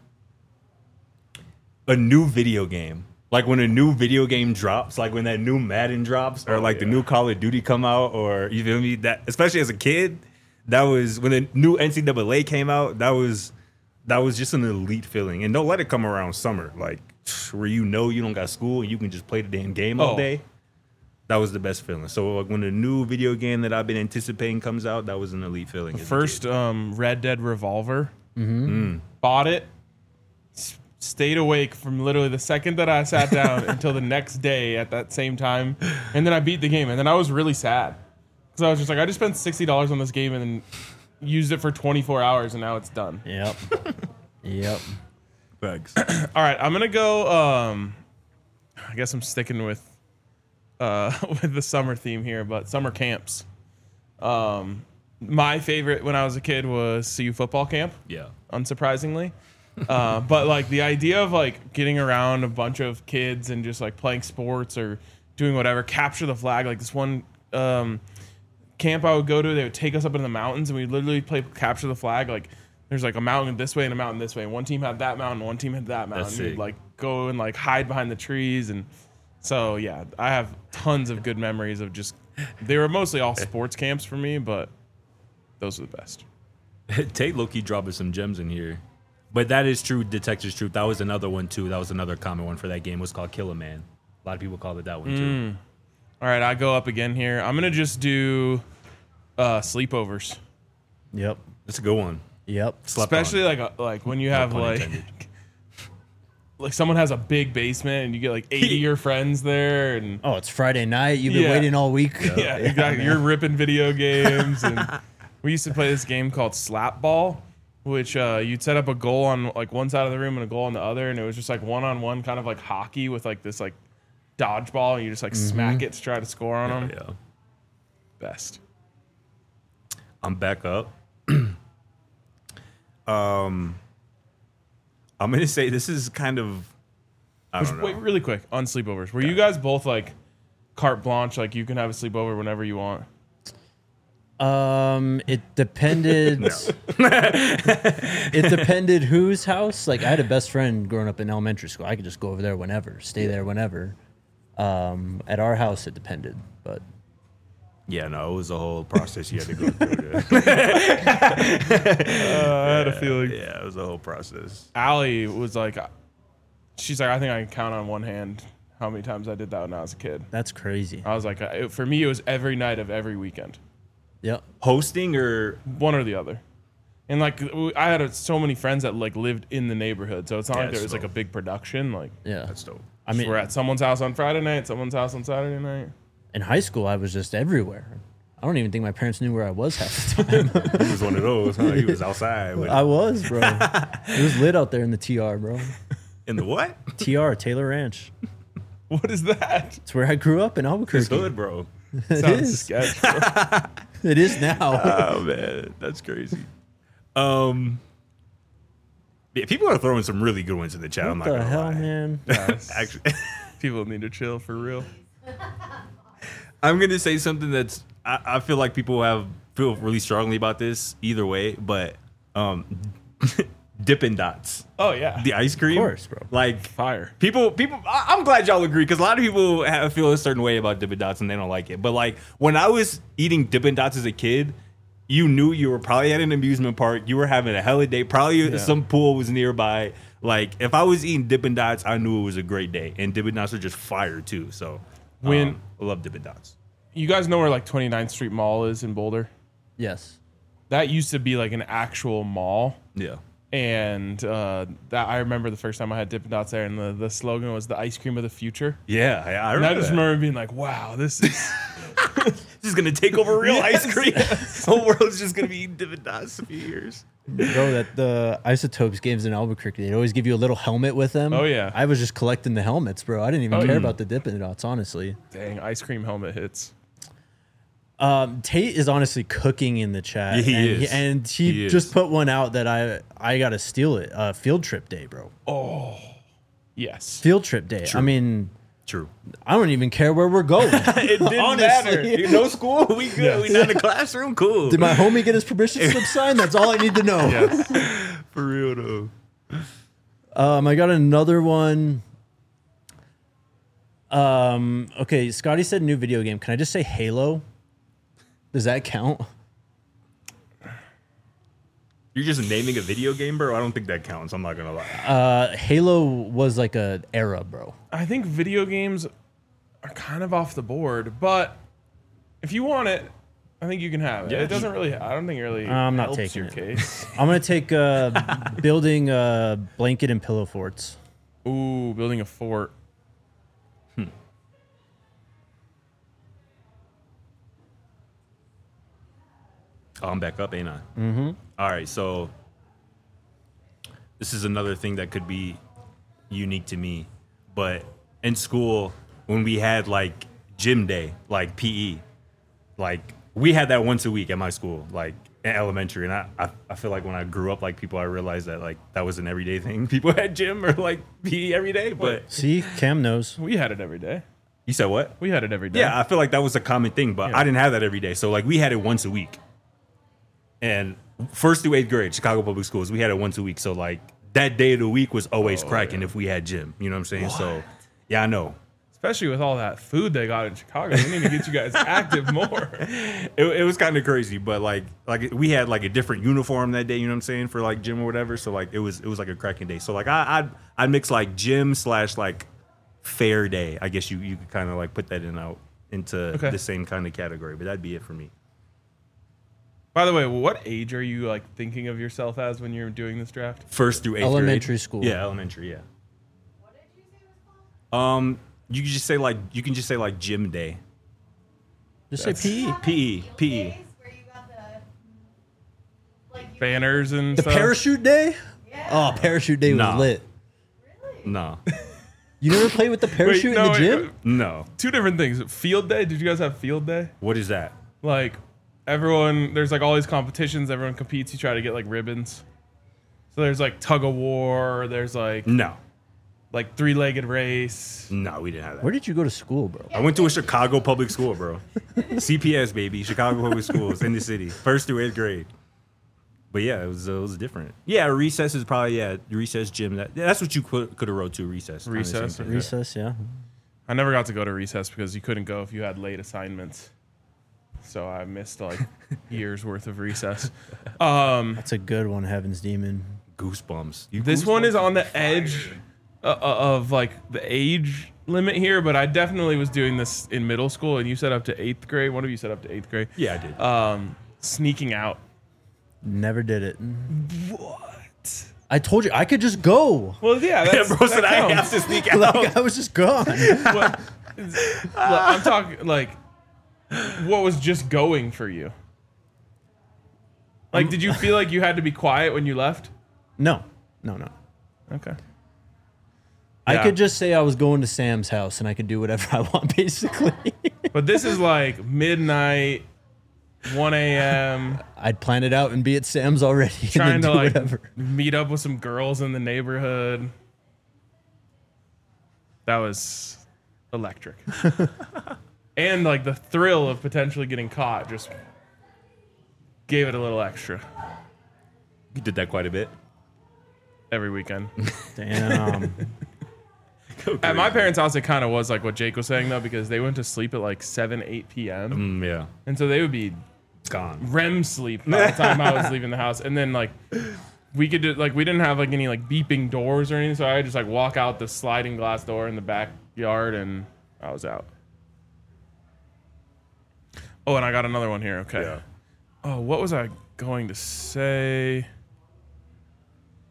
A new video game. Like when a new video game drops, like when that new Madden drops, or Oh, like the yeah. new Call of Duty come out, or you feel me? That especially as a kid, that was when the new N C double A came out. That was that was just an elite feeling. And don't let it come around summer, like where you know you don't got school and you can just play the damn game all Oh. day. That was the best feeling. So like when a new video game that I've been anticipating comes out, that was an elite feeling. as a First kid. um, Red Dead Revolver. Mm-hmm. Bought it. s- Stayed awake from literally the second that I sat down until the next day at that same time, and then I beat the game, and then I was really sad because I was just like, I just spent sixty dollars on this game and then used it for twenty-four hours, and now it's done. Yep. Yep. Facts. All right, I'm gonna go. Um, I guess I'm sticking with uh, with the summer theme here, but summer camps. Um, my favorite when I was a kid was C U football camp. Yeah. Unsurprisingly, uh, but like the idea of like getting around a bunch of kids and just like playing sports or doing whatever, capture the flag. Like this one um, camp I would go to, they would take us up in the mountains and we literally play capture the flag. Like there's like a mountain this way and a mountain this way. And one team had that mountain, one team had that mountain. That's You'd sick. like go and like hide behind the trees. And so yeah, I have tons of good memories of just. They were mostly all sports camps for me, but those are the best. Tate Loki dropping some gems in here. But that is true, Detective's Truth. That was another one too. That was another common one for that game. It was called Kill a Man. A lot of people called it that one too. All right, I go up again here. I'm gonna just do uh, sleepovers, Yep. That's a good one. Yep. Slept especially on. like a, like when you have pun like intended. like someone has a big basement and you get like eighty of your friends there and Oh, it's Friday night. You've been Yeah. waiting all week. yeah, exactly. You're ripping video games and we used to play this game called Slap Ball, which uh, you'd set up a goal on like one side of the room and a goal on the other, and it was just like one on one, kind of like hockey with like this like dodgeball, and you just like smack it to try to score on them. Yeah. Best. I'm back up. um, I'm gonna say this is kind of. I Which, don't know. wait, really quick on sleepovers. Were you guys both like carte blanche, like you can have a sleepover whenever you want? Um, it depended. It depended whose house. Like I had a best friend growing up in elementary school. I could just go over there whenever, stay there whenever. Um, at our house, it depended, but Yeah, no, it was a whole process you had to go through. To, Uh, I had a feeling. yeah, it was a whole process. Allie was like, she's like, I think I can count on one hand how many times I did that when I was a kid. that's crazy. I was like, uh, it, for me, it was every night of every weekend, Yep. Hosting or one or the other. And like, w- I had uh, so many friends that like lived in the neighborhood, so it's not Yeah, like there was so- like a big production. Like, Yeah. that's dope. I mean, we're at someone's house on Friday night, someone's house on Saturday night. in high school, I was just everywhere. I don't even think my parents knew where I was half the time. He was one of those, huh? He was outside with, I was, bro. It was lit out there in the T R, bro. in the what? T R, Taylor Ranch. What is that? It's where I grew up in His Albuquerque. hood, bro. It Sounds is. sketch, bro. It is now. Oh man, that's crazy. Um, yeah, people are throwing some really good ones in the chat. I'm What not the gonna hell, lie. man? Actually, People need to chill for real. I'm gonna say something that's I, I feel like people have feel really strongly about this either way, but um, Dippin' Dots, Oh yeah, the ice cream, Of course, bro. Like fire. people, people. I, I'm glad y'all agree because a lot of people have, feel a certain way about Dippin' Dots and they don't like it. But like when I was eating Dippin' Dots as a kid, you knew you were probably at an amusement park. You were having a hell of a day. Probably Yeah. some pool was nearby. Like if I was eating Dippin' Dots, I knew it was a great day. And Dippin' Dots are just fire too. So When- um, I love Dippin' Dots. You guys know where like twenty-ninth Street Mall is in Boulder? Yes. That used to be like an actual mall. Yeah. And uh, that I remember the first time I had Dippin' Dots there, and the, the slogan was the ice cream of the future. Yeah, I, I And I remember. just that. remember being like, wow, this is This is gonna take over real Yes, ice cream. The whole world's just gonna be eating Dippin' Dots in a few years. Bro, that the Isotopes games in Albuquerque, they'd always give you a little helmet with them. Oh, yeah. I was just collecting the helmets, bro. I didn't even Oh, care yeah. about the Dippin' Dots, honestly. dang ice cream helmet hits. Um, Tate is honestly cooking in the chat. Yeah, he and is. He, and he, He just is. put one out that I I gotta steal it. Uh, field trip day, bro. Oh, yes. Field trip day. I mean, True. I don't even care where we're going. It didn't Honestly. matter. No school. We good. We not in the classroom. Cool. Did my homie get his permission slip signed? That's all I need to know. Yes. For real though. Um, I got another one. Um, okay, Scotty said new video game. Can I just say Halo? Does that count? You're just naming a video game, bro. I don't think that counts. I'm not gonna lie. Uh, Halo was like a era, bro. I think video games are kind of off the board, but if you want it, I think you can have it. Yeah. It doesn't really. I don't think it really. I'm not helps taking your it. case. I'm gonna take uh, building uh, blanket and pillow forts. Ooh, building a fort. Oh, I'm back up, ain't I? Mm-hmm. All right, so this is another thing that could be unique to me. But in school, when we had like gym day, like P E, like we had that once a week at my school, like in elementary. And I, I, I feel like when I grew up like people, I realized that like that was an everyday thing. People had gym or like P E every day. But See, Cam knows. We had it every day. you said what? We had it every day. Yeah, I feel like that was a common thing, but I didn't have that every day. So like we had it once a week. And first through eighth grade, Chicago Public Schools, we had it once a week. So like that day of the week was always Oh, cracking yeah. if we had gym. You know what I'm saying? So yeah, I know. Especially with all that food they got in Chicago. We need to get you guys active more. It, it was kind of crazy, but like like we had like a different uniform that day. You know what I'm saying, for like gym or whatever. So like it was it was like a cracking day. So like I I'd, I'd mix like gym slash like fair day. I guess you you could kind of like put that in out into Okay. the same kind of category. But that'd be it for me. By the way, what age are you like thinking of yourself as when you're doing this draft? First through eighth Elementary grade. school. Yeah, elementary. Yeah. Um, you can just say like you can just say like gym day. Just say P E. P E, P E. Where you got the, like, you- Banners and The stuff. parachute day? Yeah. Oh, parachute day was Nah. lit. Really? No, You never played with the parachute no, in the wait, gym? wait. no. Two different things. Field day. Did you guys have field day? What is that? Like everyone, there's like all these competitions. Everyone competes. You try to get like ribbons. So there's like tug of war. There's like No, like three-legged race. no, we didn't have that. Where did you go to school, bro? I went to a Chicago public school, bro. C P S, baby. Chicago public schools in the city. First through eighth grade. But yeah, it was uh, it was different. Yeah, recess is probably, yeah, recess gym. That, yeah, that's what you could could have wrote to, recess. Kinda the same Recess, thing. okay. Recess, yeah. I never got to go to recess because you couldn't go if you had late assignments. So I missed like years worth of recess. Um, That's a good one, Heaven's Demon. Goosebumps. You this one goosebumps? is on the edge uh, uh, of like the age limit here, but I definitely was doing this in middle school, and you said up to eighth grade. One of you said up to eighth grade. Yeah, I did. Um, sneaking out. Never did it. What? I told you I could just go. Well, yeah, that's, Bro said that I have counts. to sneak out. Like, I was just gone. What- Look, I'm talking like, what was just going for you? Like, did you feel like you had to be quiet when you left? No, no, no. Okay. I Yeah. could just say I was going to Sam's house and I could do whatever I want, basically. But this is like midnight, one a.m. I'd plan it out and be at Sam's already and trying then to do like whatever. meet up with some girls in the neighborhood. That was electric. And like the thrill of potentially getting caught just gave it a little extra You did that quite a bit. every weekend. Damn. At my parents' house, it kind of was like what Jake was saying though, because they went to sleep at like seven, eight p.m. Mm, yeah, and so they would be it's gone. R E M sleep by the time I was leaving the house. And then like we could do, like we didn't have like any like beeping doors or anything, so I would just like walk out the sliding glass door in the backyard and I was out. Oh, and I got another one here. Okay. Yeah. Oh, what was I going to say?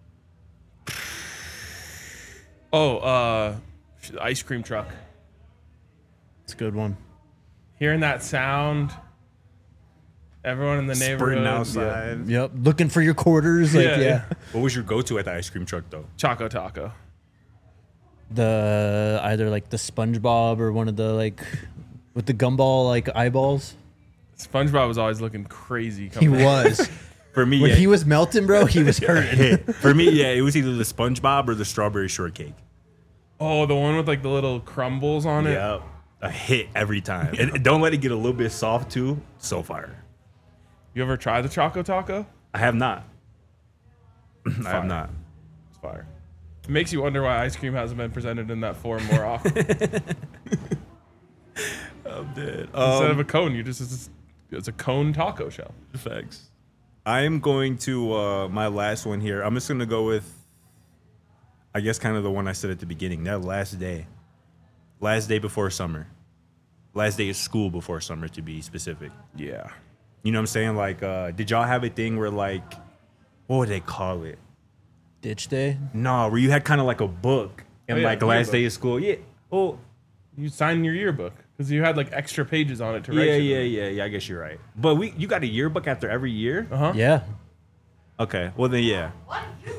Oh, uh, ice cream truck. It's a good one. Hearing that sound, everyone in the neighborhood. Sprinting yeah. outside. Yep. Looking for your quarters. Like, Yeah, yeah. yeah. What was your go-to at the ice cream truck though? Choco Taco. The either like the SpongeBob or one of the like with the gumball like eyeballs. SpongeBob was always looking crazy. He Coming was. For me, When yeah, he was melting, bro, he was hurting. for me, yeah, it was either the SpongeBob or the strawberry shortcake. Oh, the one with like the little crumbles on it. Yeah, a hit every time. And don't let it get a little bit soft too. So fire. You ever tried the Choco Taco? I have not. I Fire. have not. It's fire. It makes you wonder why ice cream hasn't been presented in that form more often. I'm dead. Instead of a cone, you just it's, it's a cone taco shell. Facts. I am going to uh, my last one here. I'm just gonna go with, I guess, kind of the one I said at the beginning. That last day, last day before summer, last day of school before summer, to be specific. Yeah. You know what I'm saying? Like, uh, did y'all have a thing where like, what would they call it? Ditch day. No, where you had kind of like a book and Oh, yeah, like the last yearbook. day of school. Yeah. Oh, You signed your yearbook because you had like extra pages on it to write. yeah, shit yeah, on. yeah, yeah. I guess you're right. But we, you got a yearbook after every year. Uh-huh. Yeah. Okay. Well then, yeah. What? You?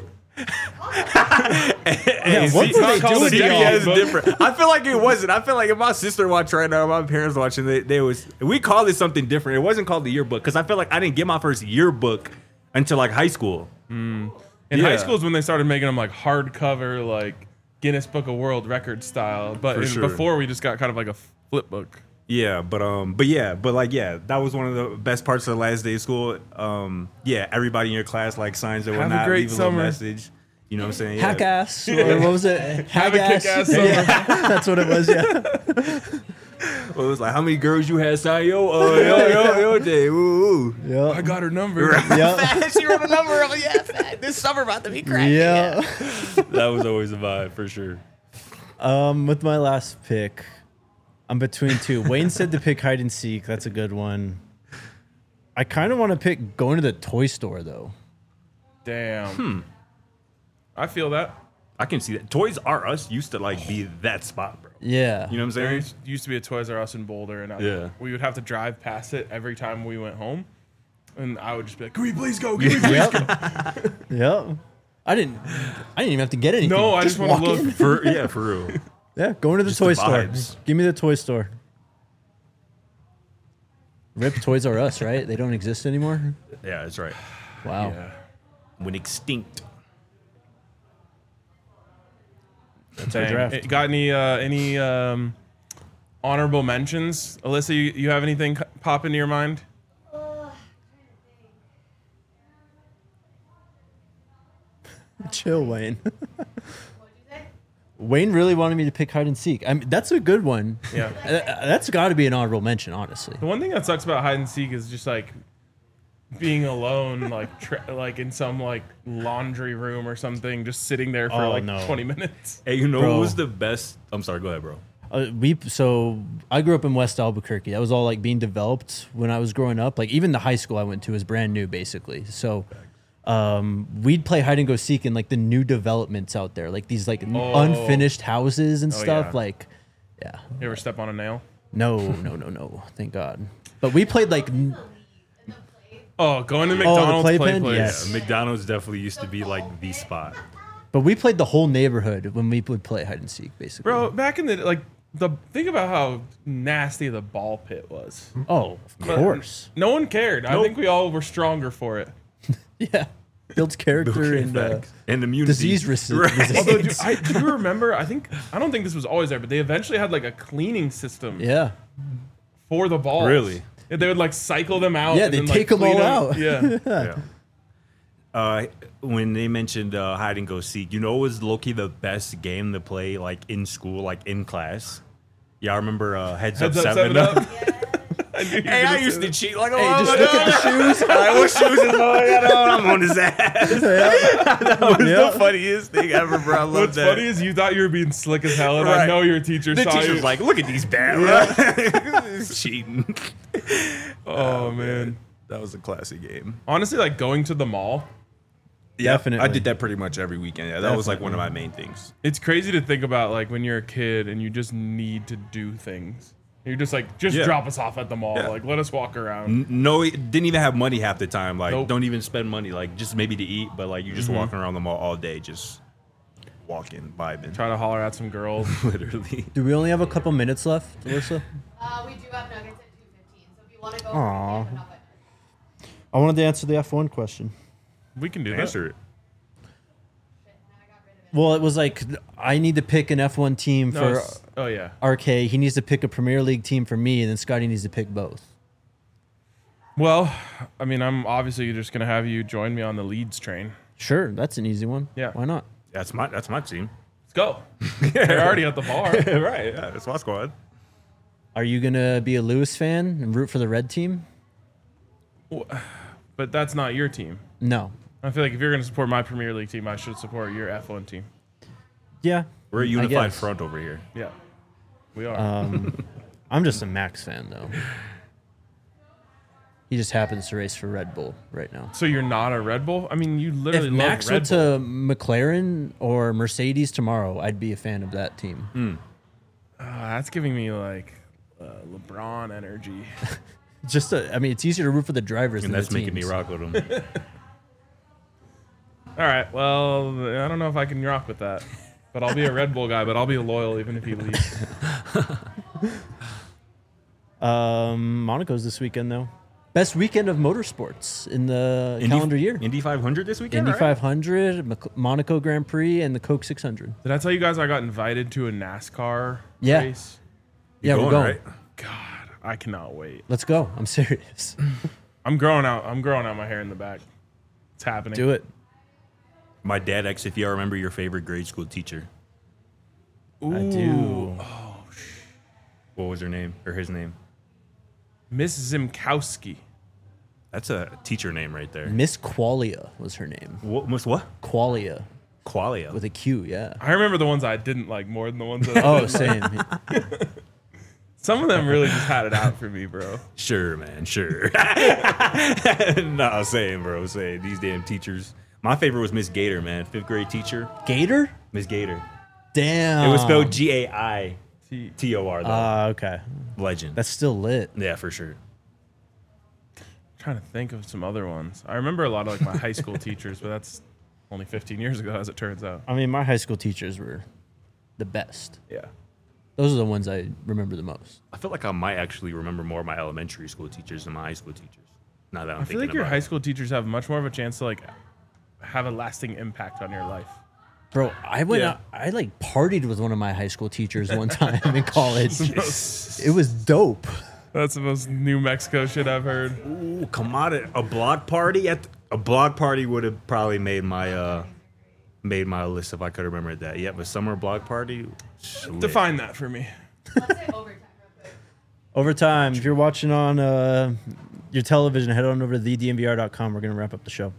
Yeah. see, What were they not called doing a to C B yearbook. y'all? S is different. I feel like it wasn't. I feel like if my sister watched right now, my parents watching, they, they was. We called it something different. It wasn't called the yearbook because I feel like I didn't get my first yearbook until like high school. In Yeah. high school is when they started making them like hardcover, like Guinness Book of World Record style. But For in- sure. before we just got kind of like a flip book. Yeah, but um, but yeah, but like yeah, that was one of the best parts of the last day of school. Um, yeah, everybody in your class like signs and Have a whatnot, great leave a little summer. message. You know what I'm saying? Yeah. Hack ass. Or what was it? Have a Hack kick-ass summer. Yeah. That's what it was. Yeah. Well, it was like, how many girls you had sign yo? Oh, yo, yo, yo, day. Ooh, ooh. Yeah. I got her number. Yeah. She wrote a number. Oh yeah, fat. This summer about to be crazy. Yeah. That was always a vibe for sure. Um, with my last pick, I'm between two. Wayne said to pick hide and seek. That's a good one. I kind of want to pick going to the toy store though. Damn. Hmm. I feel that. I can see that. Toys R Us used to like be that spot, bro. Yeah. You know what I'm There saying? used, used to be a Toys R Us in Boulder, and I, Yeah. we would have to drive past it every time we went home. And I would just be like, "Can we please go? Can we please Yep. go?" Yep. I didn't. I didn't even have to get anything. No, I just wanna walk look. in. For yeah, for real. Yeah, going to the Just toy the store. vibes. Give me the toy store. Rip Toys R Us, right? They don't exist anymore. Yeah, that's right. Wow. Yeah. When extinct. That's our Dang. draft. Eh, Got any uh, any um, honorable mentions, Alyssa? You, you have anything c- pop into your mind? Chill, Wayne. What'd you say? Wayne really wanted me to pick hide and seek. I mean, that's a good one. Yeah. Uh, That's got to be an honorable mention, honestly. The one thing that sucks about hide and seek is just like being alone, like tra- like in some like laundry room or something, just sitting there for Oh, like no. twenty minutes. Hey, you know Bro. what was the best? I'm sorry. Go ahead, bro. Uh, we so I grew up in West Albuquerque. That was all like being developed when I was growing up. Like even the high school I went to was brand new, basically. So um, we'd play hide and go seek in like the new developments out there, like these like n- Oh. unfinished houses and Oh, stuff. yeah. Like, yeah, You ever step on a nail? no, no, no, no. Thank God. But we played like n- Oh, going to the McDonald's play playpen? place. Yes. Yeah, McDonald's definitely used to be like the spot. but we played the whole neighborhood when we would play hide and seek, basically. Bro, back in the like the think about how nasty the ball pit was. Oh, of But course. No one cared. I Nope. think we all were stronger for it. Yeah, builds character and uh, Facts. and immunity. disease resi- Right. resistance. Although, do, I, do you remember? I think I don't think this was always there, but they eventually had like a cleaning system Yeah. for the balls. Really? Yeah, they would like cycle them out. Yeah, and they then, take like, 'em all clean out. Yeah. Yeah. Uh, when they mentioned uh, hide and go seek, you know, it was low-key the best game to play like in school, like in class. Yeah, I remember uh, Heads, Heads Up up, Seven seven Up. I knew you were Hey, gonna I say used to that. cheat like, Hey, oh, just my look at the God. shoes. All right, what shoes is my got on? I'm on his ass. That was Yeah. the funniest thing ever, bro. I love What's that. funny is you thought you were being slick as hell, and I Right. know your teacher the saw teacher you. was like, look at these bad. It's cheating. oh man. That was a classic game. Honestly, like going to the mall Yeah, Definitely. I did that pretty much every weekend. Yeah, that was like one of my main things. It's crazy to think about like when you're a kid and you just need to do things. You're just like, just Yeah. drop us off at the mall. Yeah. Like, let us walk around. N- No, didn't even have money half the time. Like, Nope. don't even spend money. Like, just maybe to eat, but like you just walking around the mall all day, just walking, vibing, Try to holler at some girls. literally. Do we only have a couple minutes left, Alyssa? Uh, we do have nuggets at two fifteen, so if you want to go, Aw. we can, but not by nine. I wanted to answer the F one question. We can do that. Answer it. Shit, now I got rid of it. Well, it was like I need to pick an F one team No, for it's- oh, yeah. R K. He needs to pick a Premier League team for me, and then Scotty needs to pick both. Well, I mean, I'm obviously just going to have you join me on the Leeds train. Sure, that's an easy one. Yeah. Why not? That's my that's my team. Let's go. They're already at the bar. Right. Yeah, that's my squad. Are you gonna be a Lewis fan and root for the red team? But that's not your team. No. I feel like if you're going to support my Premier League team, I should support your F one team. Yeah. We're a I unified guess. front over here. Yeah. We are. Um, I'm just a Max fan though. He just happens to race for Red Bull right now. so you're not a Red Bull? I mean, you literally If love Max Red went Bull. to McLaren or Mercedes tomorrow, I'd be a fan of that team. Uh, that's giving me like uh, LeBron energy. Just, a, I mean, it's easier to root for the drivers And than that's the making me teams. rock with them. All right. Well, I don't know if I can rock with that, but I'll be a Red Bull guy. But I'll be loyal even if he leaves. Um, Monaco's this weekend though. Best weekend of motorsports in the Indy- calendar year. Indy five hundred this weekend. Indy right? five hundred, Mac- Monaco Grand Prix, and the Coke six hundred. Did I tell you guys I got invited to a NASCAR Yeah. race? Yeah, Going, we're going. right? God, I cannot wait. Let's go. I'm serious. I'm growing out. I'm growing out my hair in the back. It's happening. Do it. My dad asked if y'all remember your favorite grade school teacher. Ooh, I do. What was her name or his name? Miss Zimkowski. That's a teacher name right there. Miss Qualia was her name. What? Miss what? Qualia Qualia. with a Q. Yeah. I remember the ones I didn't like more than the ones that. I Oh, did. same. Some of them really just had it out for me, bro. Sure, man. Sure. Nah, same, bro. Same. These damn teachers. My favorite was Miss Gator, man. Fifth grade teacher. Gator? Miss Gator. Damn. It was spelled G A I T- T O R though. Ah, okay. Legend. That's still lit. Yeah, for sure. trying to think of some other ones. I remember a lot of like my high school teachers, but that's only fifteen years ago, as it turns out. I mean, my high school teachers were the best. Yeah. Those are the ones I remember the most. I feel like I might actually remember more of my elementary school teachers than my high school teachers. Now that I'm I feel thinking like your about high it. school teachers have much more of a chance to like have a lasting impact on your life. Bro, I went Yeah. out, I like partied with one of my high school teachers one time in college. That's It was dope. the most New Mexico shit I've heard. Ooh, come on, a block party at a block party would have probably made my uh made my list if I could remember that. Yeah, but summer block party. lit. Define that for me. Let's say overtime real quick. Overtime, if you're watching on uh, your television, head on over to the d m v r dot com. We're going to wrap up the show.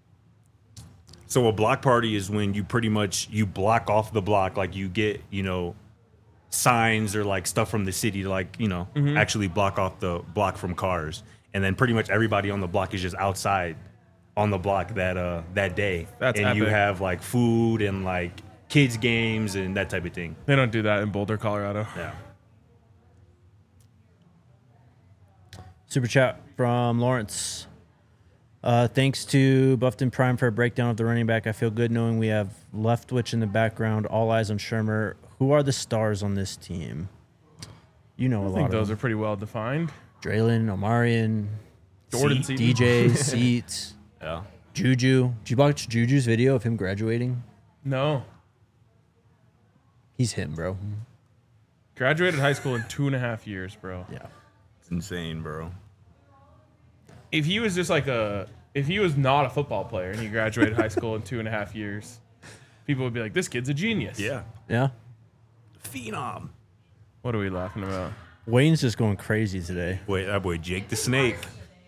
So a block party is when you pretty much you block off the block, like you get, you know, signs or like stuff from the city to like, you know, Mm-hmm. actually block off the block from cars. And then pretty much everybody on the block is just outside on the block that uh that day. That's and you epic. have like food and like kids games and that type of thing. They don't do that in Boulder, Colorado. Yeah. Super chat from Lawrence. Uh, thanks to Buffton Prime for a breakdown of the running back. I feel good knowing we have Leftwich in the background. All eyes on Shermer. Who are the stars on this team? You know a I lot think of those them. are pretty well defined. Draylon, Omarion, Jordan Seat, Seaton. D J, Seats, Yeah. Juju. Did you watch Juju's video of him graduating? No. He's him, bro. Graduated high school in two and a half years, bro. Yeah. It's insane, bro. If he was just like a, if he was not a football player and he graduated high school in two and a half years, people would be like, this kid's a genius. Yeah. Yeah. Phenom. What are we laughing about? Wayne's just going crazy today. Wait, that boy Jake the Snake.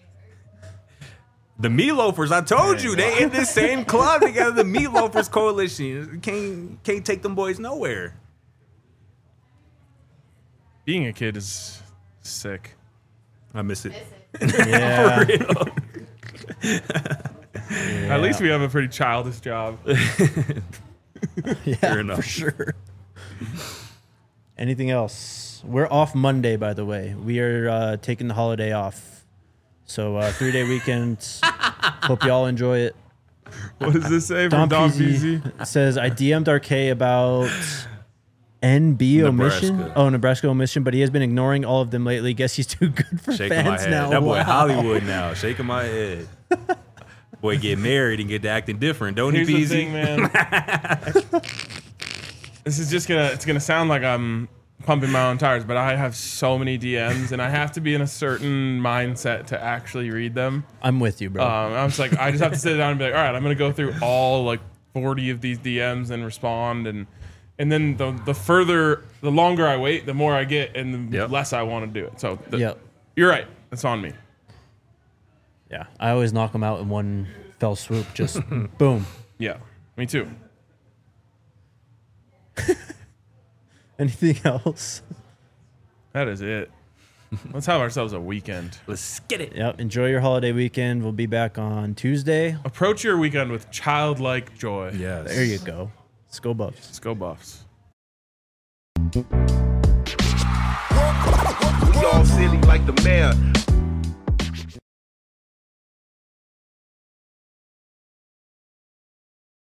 The Meat Loafers, I told you, they in this same club together, the Meat Loafers Coalition. Can't can't take them boys nowhere. Being a kid is sick. I miss it. Miss it. Yeah. At least we have a pretty childish job. yeah, Fair enough. for sure. Anything else? We're off Monday, by the way. We are uh, taking the holiday off. So uh, three day weekend. Hope y'all enjoy it. What does this say from Don P Z? Says, I D M'd R K about N B omission. Nebraska. Oh, Nebraska omission, but he has been ignoring all of them lately. Guess he's too good for Shaking my fans head. now. That boy Wow. Hollywood now. Shaking my head. Boy, get married and get to acting different, don't Here's he, the Peasy? thing, man. This is just gonna, it's gonna sound like I'm pumping my own tires, but I have so many D Ms and I have to be in a certain mindset to actually read them. I'm with you, bro. Um, I was like, I just have to sit down and be like, all right, I'm gonna go through all like forty of these D Ms and respond, and and then the the further, the longer I wait, the more I get, and the Yep. less I want to do it. So the, Yep. you're right, that's on me. Yeah, I always knock them out in one fell swoop. Just boom. Yeah, me too. Anything else? That is it. Let's have ourselves a weekend. Let's get it. Yep. Enjoy your holiday weekend. We'll be back on Tuesday. Approach your weekend with childlike joy. Yes. There you go. Let's go Buffs. Let's go Buffs. We all silly like the mayor.